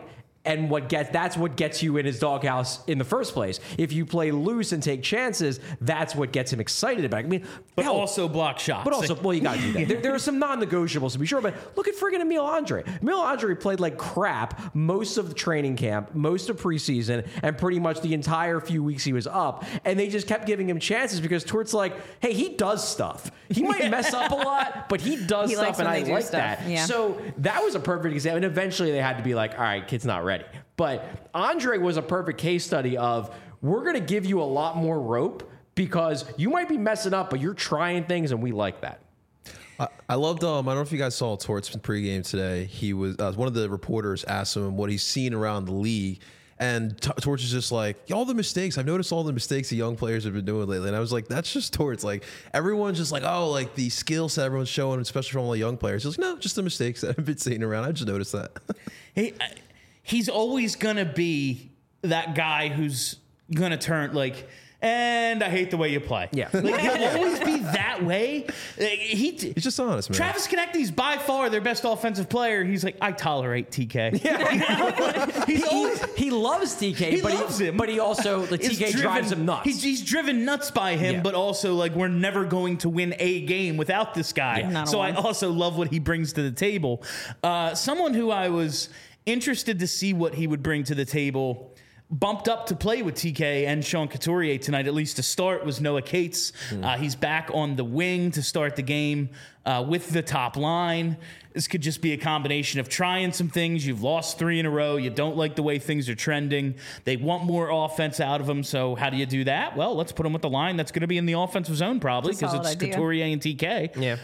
And that's what gets you in his doghouse in the first place. If you play loose and take chances, that's what gets him excited about it. I mean, But hell, also block shots. but also, well, you got to do that. There are some non-negotiables to be sure, but look at friggin' Emil Andre. Emil Andre played like crap most of the training camp, most of preseason, and pretty much the entire few weeks he was up. And they just kept giving him chances because Tort's like, hey, he does stuff. He might mess up a lot, but he does He likes stuff, and when I they do like stuff. that. Yeah. So that was a perfect example. And eventually they had to be like, all right, kid's not ready. But Andre was a perfect case study of, we're going to give you a lot more rope because you might be messing up, but you're trying things, and we like that. I loved. I don't know if you guys saw Torts pregame today. He was one of the reporters asked him what he's seen around the league, and Torts is just like, all the mistakes. I've noticed all the mistakes the young players have been doing lately, and I was like, that's just Torts. Like everyone's just like, oh, like the skill set everyone's showing, especially from all the young players. He's like, no, just the mistakes that I've been seeing around. I just noticed that. He's always gonna be that guy who's gonna turn like, and I hate the way you play. Yeah. Like he'll always be that way. He's just honest, man. Travis Konecny's by far their best offensive player. He's like, I tolerate TK. Yeah. He loves TK, He but loves him. But he also, the is TK drives him nuts. He's driven nuts by him, Yeah. but also like we're never going to win a game without this guy. Yeah. Not a So I one. also love what he brings to the table. Someone who I was interested to see what he would bring to the table, bumped up to play with TK and Sean Couturier tonight, at least to start, was Noah Cates. He's back on the wing to start the game with the top line. This could just be a combination of trying some things. You've lost 3 in a row. You don't like the way things are trending. They want more offense out of him. So how do you do that? Well, let's put him with the line that's going to be in the offensive zone probably It's a because it's solid idea. Couturier and TK.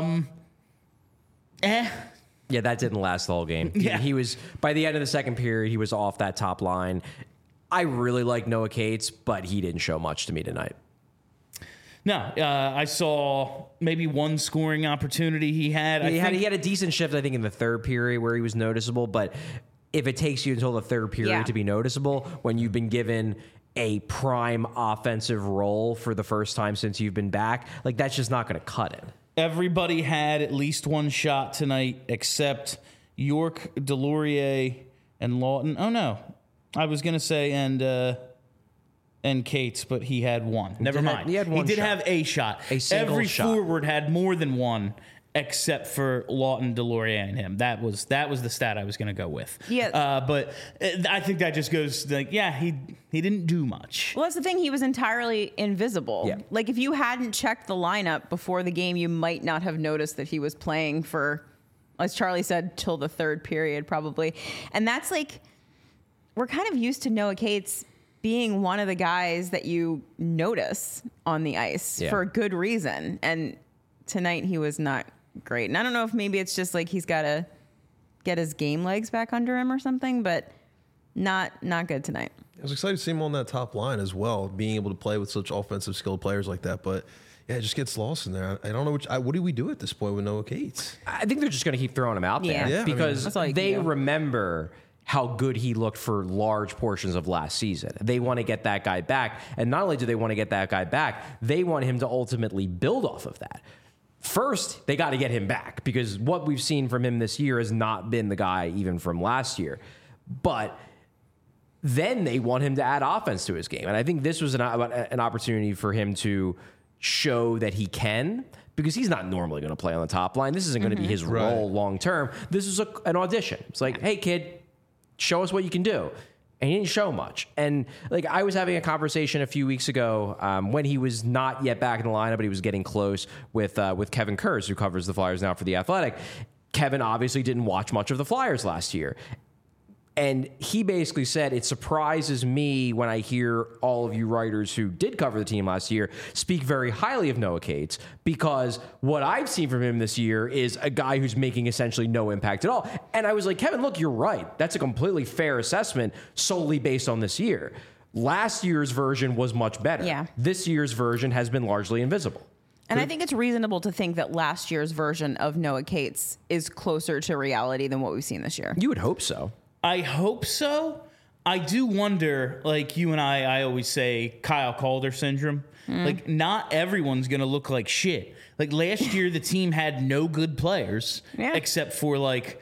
Yeah. Yeah, that didn't last the whole game. Yeah. He was, by the end of the second period, he was off that top line. I really like Noah Cates, but he didn't show much to me tonight. No, I saw maybe one scoring opportunity he had. He had a decent shift, I think, in the third period where he was noticeable, but if it takes you until the third period Yeah. to be noticeable, when you've been given a prime offensive role for the first time since you've been back, like that's just not going to cut it. Everybody had at least one shot tonight except York, Delorier, and Lawton. Oh, no. I was going to say and Cates, but he had one. Never mind. He had one He did shot. have a shot. A single Every shot. forward had more than one except for Lawton, Delorier, and him. That was the stat I was going to go with. Yeah. But I think that just goes like, yeah, he didn't do much. Well, that's the thing. He was entirely invisible. Yeah. Like if you hadn't checked the lineup before the game, you might not have noticed that he was playing for, as Charlie said, till the third period probably. And that's like, we're kind of used to Noah Cates being one of the guys that you notice on the ice Yeah. for a good reason. And tonight he was not great. And I don't know if maybe it's just like he's got to get his game legs back under him or something, but not good tonight. I was excited to see him on that top line as well, being able to play with such offensive skilled players like that. But yeah, it just gets lost in there. I don't know what do we do at this point with Noah Cates? I think they're just going to keep throwing him out there Yeah. Yeah, I mean, because that's all you can they do. remember how good he looked for large portions of last season. They want to get that guy back. And not only do they want to get that guy back, they want him to ultimately build off of that. First, they got to get him back because what we've seen from him this year has not been the guy even from last year. But then they want him to add offense to his game. And I think this was an opportunity for him to show that he can, because he's not normally going to play on the top line. This isn't going to be his Right. role long term. This is an audition. It's like, hey, kid, show us what you can do. And he didn't show much. And like I was having a conversation a few weeks ago when he was not yet back in the lineup, but he was getting close with Kevin Kurz, who covers the Flyers now for The Athletic. Kevin obviously didn't watch much of the Flyers last year. And he basically said, it surprises me when I hear all of you writers who did cover the team last year speak very highly of Noah Cates, because what I've seen from him this year is a guy who's making essentially no impact at all. And I was like, Kevin, look, you're right. That's a completely fair assessment solely based on this year. Last year's version was much better. Yeah. This year's version has been largely invisible. And I think it's reasonable to think that last year's version of Noah Cates is closer to reality than what we've seen this year. You would hope so. I hope so. I do wonder, like you and I always say Kyle Calder syndrome. Like, not everyone's going to look like shit. Like, last year, the team had no good players Yeah. except for, like,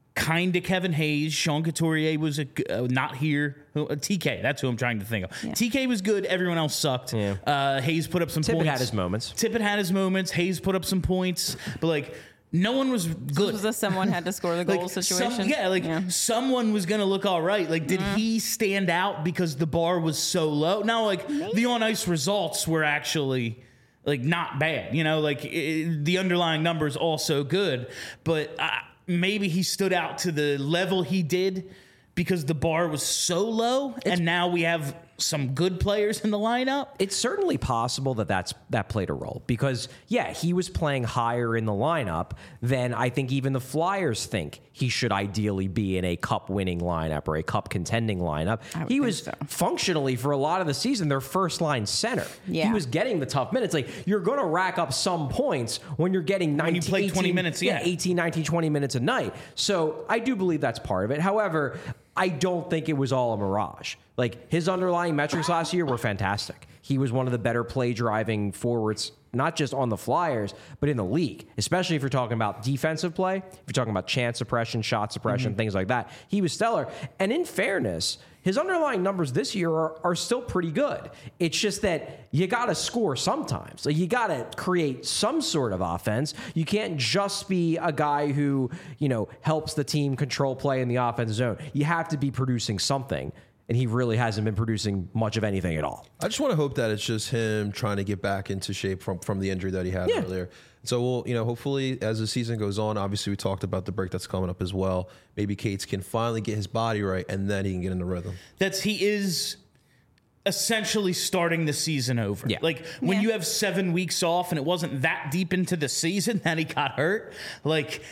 kind of Kevin Hayes. Sean Couturier was not here. TK, that's who I'm trying to think of. Yeah. TK was good. Everyone else sucked. Yeah. Hayes put up some points. Tippett had his moments. Tippett had his moments. Hayes put up some points. But, like, no one was good. Was this someone had to score the goal situation? Someone was going to look all right. Like, did he stand out because the bar was so low? Now, like, the on-ice results were actually, like, not bad. You know, like, the underlying numbers also good. But maybe he stood out to the level he did because the bar was so low, and now we have some good players in the lineup. It's certainly possible that played a role because, yeah, he was playing higher in the lineup than I think even the Flyers think he should ideally be in a cup-winning lineup or a cup-contending lineup. He was functionally, for a lot of the season, their first-line center. Yeah. He was getting the tough minutes. Like, you're going to rack up some points when you're getting 19, 20 minutes, 18, 19, 20 minutes a night. So I do believe that's part of it. However, I don't think it was all a mirage. Like, his underlying metrics last year were fantastic. He was one of the better play-driving forwards, not just on the Flyers, but in the league, especially if you're talking about defensive play, if you're talking about chance suppression, shot suppression, things like that. He was stellar. And in fairness, his underlying numbers this year are still pretty good. It's just that you got to score sometimes. Like, you got to create some sort of offense. You can't just be a guy who, helps the team control play in the offensive zone. You have to be producing something. And he really hasn't been producing much of anything at all. I just want to hope that it's just him trying to get back into shape from the injury that he had earlier. So we'll, hopefully as the season goes on, obviously we talked about the break that's coming up as well. Maybe Cates can finally get his body right, and then he can get in the rhythm. He is essentially starting the season over. Yeah. Like, when you have 7 weeks off and it wasn't that deep into the season that he got hurt, like,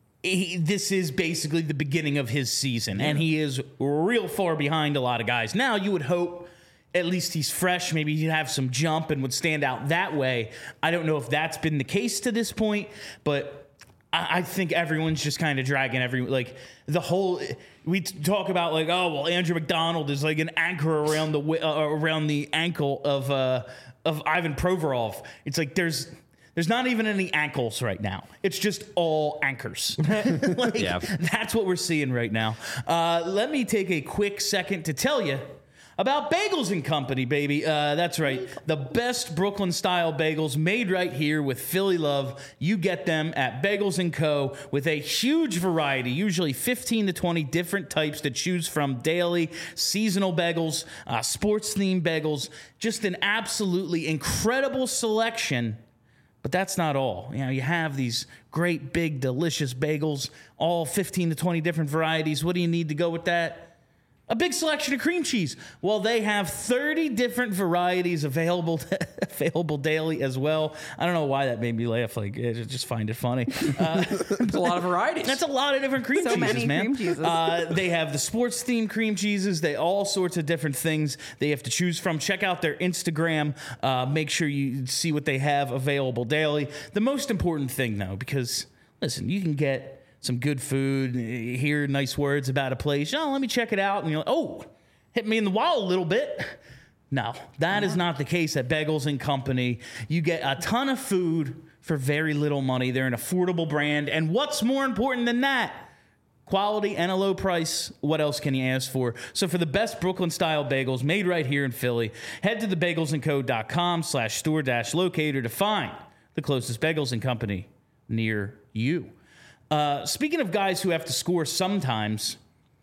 this is basically the beginning of his season, and he is real far behind a lot of guys. Now, you would hope at least he's fresh. Maybe he'd have some jump and would stand out that way. I don't know if that's been the case to this point, but I think everyone's just kind of dragging we talk about, like, oh, well, Andrew McDonald is like an anchor around the ankle of Ivan Provorov. It's like there's not even any ankles right now. It's just all anchors. That's what we're seeing right now. Let me take a quick second to tell you about Bagels and Company, baby. That's right. The best Brooklyn-style bagels made right here with Philly love. You get them at Bagels & Co. with a huge variety, usually 15 to 20 different types to choose from daily, seasonal bagels, sports-themed bagels. Just an absolutely incredible selection. But that's not all. You have these great, big, delicious bagels, all 15 to 20 different varieties. What do you need to go with that? A big selection of cream cheese. Well, they have 30 different varieties available daily as well. I don't know why that made me laugh. Like, I just find it funny. It's a lot of varieties. That's a lot of different cream cheeses, many man. Cream cheeses. They have the sports-themed cream cheeses. They all sorts of different things they have to choose from. Check out their Instagram. Make sure you see what they have available daily. The most important thing, though, because, listen, you can get some good food, hear nice words about a place. Oh, let me check it out. And you're like, oh, hit me in the wall a little bit. No, that is not the case at Bagels & Company. You get a ton of food for very little money. They're an affordable brand. And what's more important than that? Quality and a low price. What else can you ask for? So for the best Brooklyn-style bagels made right here in Philly, head to thebagelsandco.com/store-locator to find the closest Bagels & Company near you. Speaking of guys who have to score sometimes,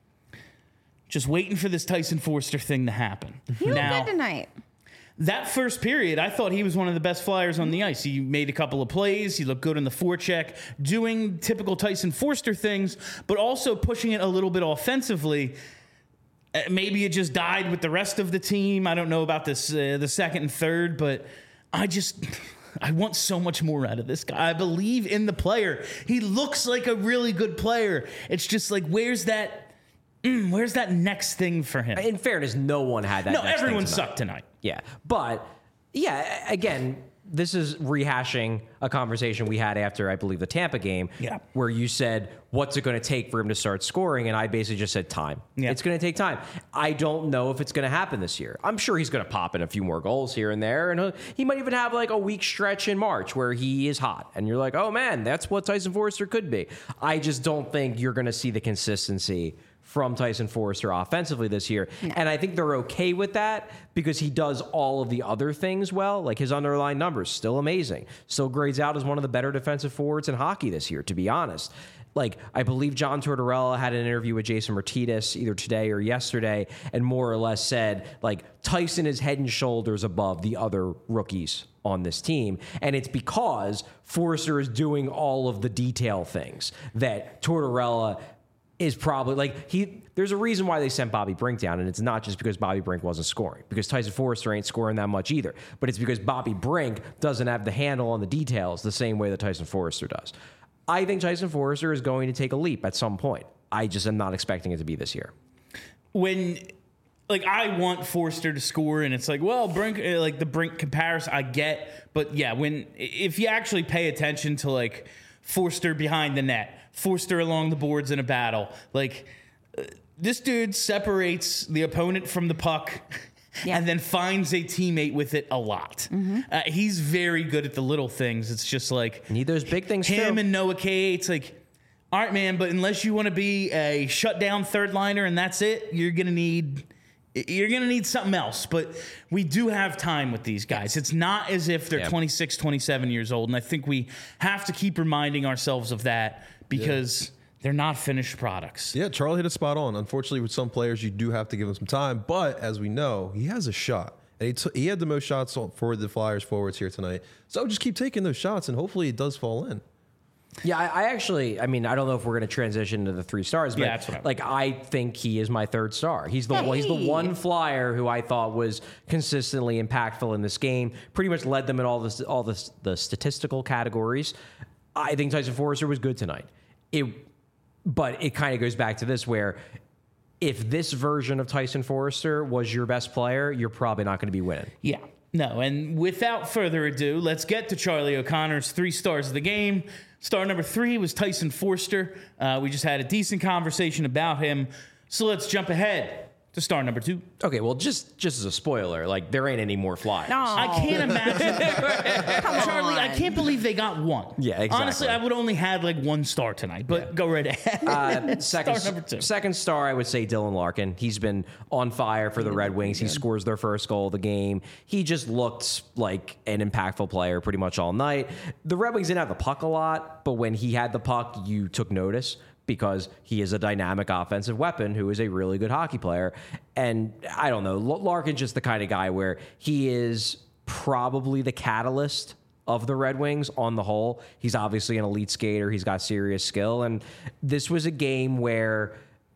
just waiting for this Tyson Foerster thing to happen. He looked good tonight. That first period, I thought he was one of the best Flyers on the ice. He made a couple of plays. He looked good in the forecheck, doing typical Tyson Foerster things, but also pushing it a little bit offensively. Maybe it just died with the rest of the team. I don't know about this, the second and third, but I want so much more out of this guy. I believe in the player. He looks like a really good player. It's just like, where's that next thing for him? In fairness, no one had that. No, everyone sucked tonight. Yeah. But, yeah, again, this is rehashing a conversation we had after, I believe, the Tampa game, where you said, what's it going to take for him to start scoring? And I basically just said time. Yeah. It's going to take time. I don't know if it's going to happen this year. I'm sure he's going to pop in a few more goals here and there. And he might even have like a week stretch in March where he is hot. And you're like, oh, man, that's what Tyson Foerster could be. I just don't think you're going to see the consistency from Tyson Foerster offensively this year. Yeah. And I think they're okay with that because he does all of the other things well. Like his underlying numbers, still amazing. Still grades out as one of the better defensive forwards in hockey this year, to be honest. Like, I believe John Tortorella had an interview with Jason Martinez either today or yesterday and more or less said, like, Tyson is head and shoulders above the other rookies on this team. And it's because Foerster is doing all of the detail things that Tortorella is probably like there's a reason why they sent Bobby Brink down, and it's not just because Bobby Brink wasn't scoring, because Tyson Foerster ain't scoring that much either, but it's because Bobby Brink doesn't have the handle on the details the same way that Tyson Foerster does. I think Tyson Foerster is going to take a leap at some point. I just am not expecting it to be this year. When like I want Foerster to score, and it's like, well, Brink, like the Brink comparison I get, but yeah, if you actually pay attention to like Foerster behind the net, Foerster along the boards in a battle. Like, this dude separates the opponent from the puck and then finds a teammate with it a lot. Mm-hmm. He's very good at the little things. It's just like... Need those big things, him too. And Noah K. It's like, all right, man, but unless you want to be a shutdown third liner and that's it, you're going to need something else. But we do have time with these guys. It's not as if they're 26, 27 years old. And I think we have to keep reminding ourselves of that because they're not finished products. Yeah, Charlie hit a spot on. Unfortunately, with some players, you do have to give them some time. But as we know, he has a shot. And he had the most shots for the Flyers forwards here tonight. So just keep taking those shots, and hopefully it does fall in. Yeah, I mean, I don't know if we're going to transition to the 3 stars, but that's what I think he is my 3rd star. He's the one Flyer who I thought was consistently impactful in this game. Pretty much led them in all the statistical categories. I think Tyson Foerster was good tonight. But it kind of goes back to this where if this version of Tyson Foerster was your best player, you're probably not going to be winning. Yeah. No, and without further ado, let's get to Charlie O'Connor's 3 stars of the game. Star number 3 was Tyson Foerster. We just had a decent conversation about him. So let's jump ahead to star number 2. Okay, well, just as a spoiler, like, there ain't any more Flyers. No. I can't imagine. Charlie, I can't believe they got 1. Yeah, exactly. Honestly, I would only had like 1 star tonight, but go right ahead. Star number 2. Second star, I would say Dylan Larkin. He's been on fire for the Red Wings. He scores their first goal of the game. He just looked like an impactful player pretty much all night. The Red Wings didn't have the puck a lot, but when he had the puck, you took notice, because he is a dynamic offensive weapon who is a really good hockey player. And I don't know, Larkin's just the kind of guy where he is probably the catalyst of the Red Wings on the whole. He's obviously an elite skater. He's got serious skill. And this was a game where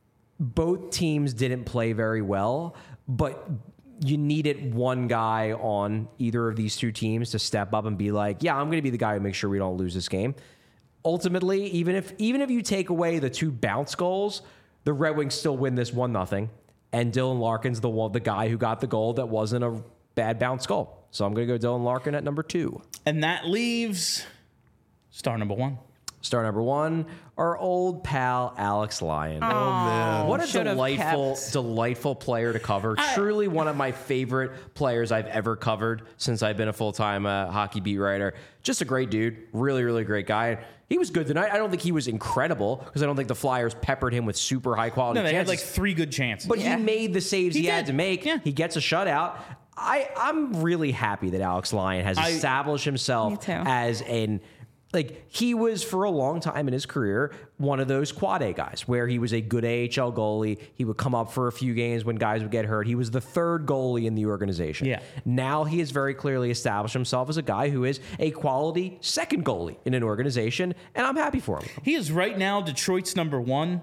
both teams didn't play very well, but you needed one guy on either of these 2 teams to step up and be like, yeah, I'm going to be the guy who makes sure we don't lose this game. Ultimately, even if you take away the 2 bounce goals, the Red Wings still win this 1-0. And Dylan Larkin's the guy who got the goal that wasn't a bad bounce goal. So I'm going to go Dylan Larkin at number 2. And that leaves star number 1. Star number 1, our old pal Alex Lyon. Oh, man. What a delightful player to cover. Truly one of my favorite players I've ever covered since I've been a full-time hockey beat writer. Just a great dude. Really, really great guy. He was good tonight. I don't think he was incredible because I don't think the Flyers peppered him with super high-quality chances. They had like 3 good chances. But he made the saves he had to make. Yeah. He gets a shutout. I'm really happy that Alex Lyon has established himself as an... Like, he was, for a long time in his career, one of those quad A guys where he was a good AHL goalie. He would come up for a few games when guys would get hurt. He was the 3rd goalie in the organization. Yeah. Now he has very clearly established himself as a guy who is a quality 2nd goalie in an organization, and I'm happy for him. He is right now Detroit's number 1.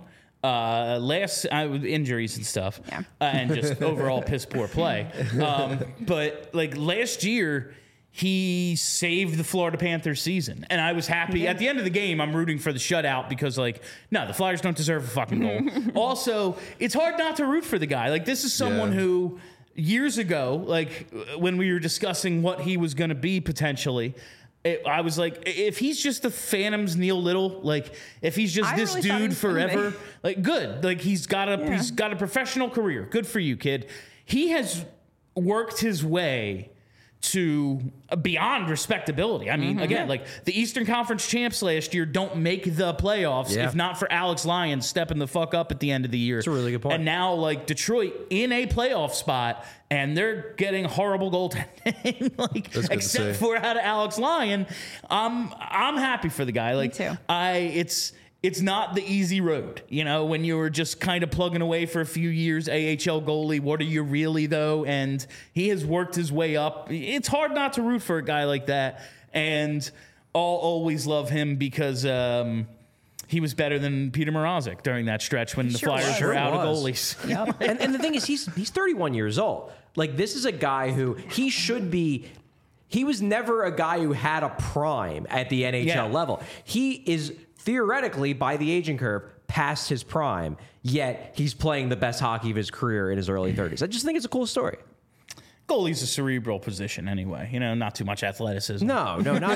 With injuries and stuff, and just overall piss poor play. But like last year, he saved the Florida Panthers season. And I was happy. At the end of the game, I'm rooting for the shutout because, like, no, the Flyers don't deserve a fucking goal. Also, it's hard not to root for the guy. Like, this is someone who years ago, like when we were discussing what he was going to be potentially, I was like, if he's just the Phantom's Neil Little, like if he's just this really thought he dude was gonna forever, be. like good, like he's got a professional career. Good for you, kid. He has worked his way to beyond respectability. I mean, again, like the Eastern Conference champs last year don't make the playoffs if not for Alex Lyons stepping the fuck up at the end of the year. That's a really good point. And now, like Detroit in a playoff spot, and they're getting horrible goaltending, like That's good to except see. for out of Alex Lyon. I'm happy for the guy. Like too. It's not the easy road, you know, when you were just kind of plugging away for a few years, AHL goalie. What are you really, though? And he has worked his way up. It's hard not to root for a guy like that. And I'll always love him because he was better than Peter Mrazek during that stretch when the sure Flyers was. were Sure out of was. goalies. Yep. And the thing is, he's 31 years old. Like, this is a guy who he should be. He was never a guy who had a prime at the NHL Yeah. level. He is theoretically, by the aging curve, past his prime, yet he's playing the best hockey of his career in his early 30s. I just think it's a cool story. Goalie's a cerebral position anyway, you know, not too much athleticism. No, not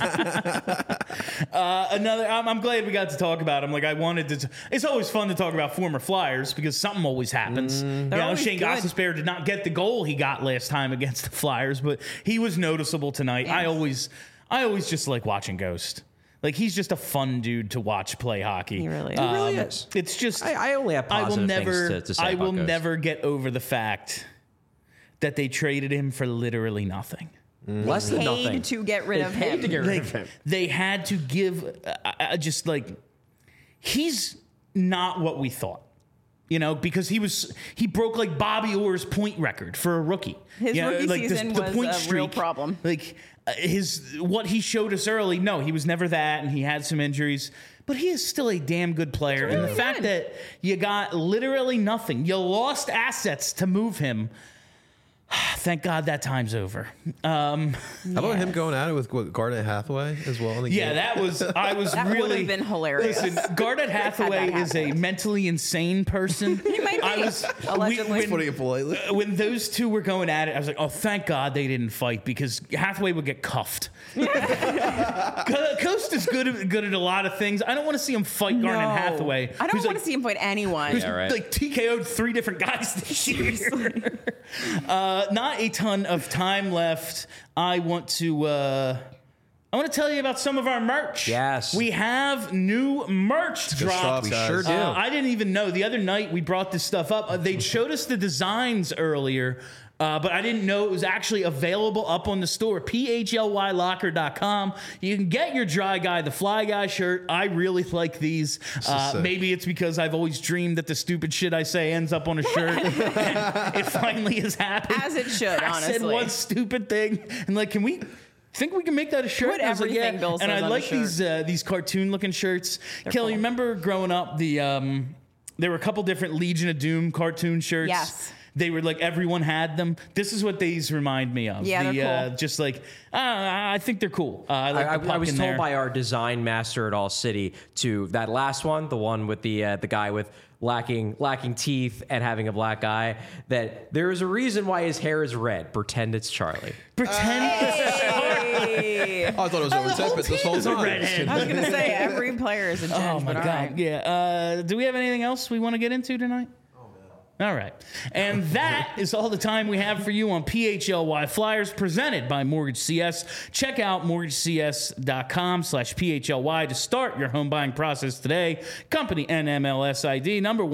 at all. I'm glad we got to talk about him. Like I wanted to. It's always fun to talk about former Flyers because something always happens. You know, always Shane good. Gostisbehere did not get the goal he got last time against the Flyers, but he was noticeable tonight. Yes. I always just like watching Ghost. Like he's just a fun dude to watch play hockey. He really is. He really is. It's just I only have positive things to say I about will Ghost. never get over the fact that they traded him for literally nothing. Less than nothing. Paid to get rid of him. They had to give just like he's not what we thought. You know, because he broke like Bobby Orr's point record for a rookie. His You know, rookie like season the was point a real streak, problem. Like what he showed us early. No, he was never that, and he had some injuries. But he is still a damn good player. And the really fact good. that you got literally nothing, you lost assets to move him. Thank God that time's over. How about him going at it with Garnet Hathaway as well in the Yeah, game? I was That really would've been hilarious. Listen, Garnet Hathaway that is a happen. mentally insane person. He might be, allegedly. Putting it politely. When those two were going at it, I was like, oh, thank God they didn't fight because Hathaway would get cuffed. Coast is good at a lot of things. I don't want to see him fight Garnet Hathaway. I don't who's want to see him fight anyone. Who's right. like TKO'd 3 different guys this year. Not a ton of time left. I want to tell you about some of our merch. Yes. We have new merch Good dropped. stuff, guys. sure do. I didn't even know. The other night we brought this stuff up. They showed us the designs earlier, but I didn't know it was actually available up on the store. PHLYlocker.com. You can get your Dry Guy, the Fly Guy shirt. I really like these. sick. Maybe it's because I've always dreamed that the stupid shit I say ends up on a shirt. And it finally has happened. As it should, I said honestly. one stupid thing, and like, can we think we can make that a shirt? Put And I was like, everything Bill and says I on a like shirt. these cartoon looking shirts. Kelly, cool. remember growing up there were a couple different Legion of Doom cartoon shirts. Yes. They were like everyone had them. This is what these remind me of. Yeah, they're cool. Just like I think they're cool. I like the puck I was in told there. by our design master at All City to that last one, the one with the guy with lacking teeth and having a black eye, that there is a reason why his hair is red. Pretend it's Charlie. Pretend Hey. Oh, I thought it was Owen Tippett this whole is a time. redhead. I was going to say, every player is a Jen. Oh my but God! all right. Yeah. Do we have anything else we want to get into tonight? All right. And that is all the time we have for you on PHLY Flyers presented by Mortgage CS. Check out mortgagecs.com/PHLY to start your home buying process today. Company NMLS ID number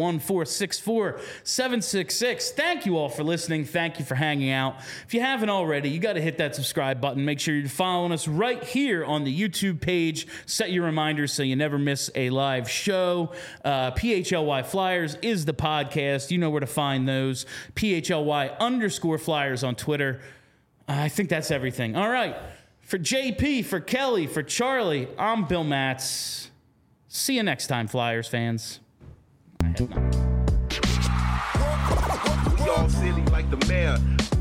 1464766. Thank you all for listening. Thank you for hanging out. If you haven't already, you got to hit that subscribe button. Make sure you're following us right here on the YouTube page. Set your reminders so you never miss a live show. PHLY Flyers is the podcast. You know where to find those. PHLY_Flyers on Twitter. I think that's everything. All right. For JP, for Kelly, for Charlie, I'm Bill Matz. See you next time, Flyers fans. We all silly like the mayor.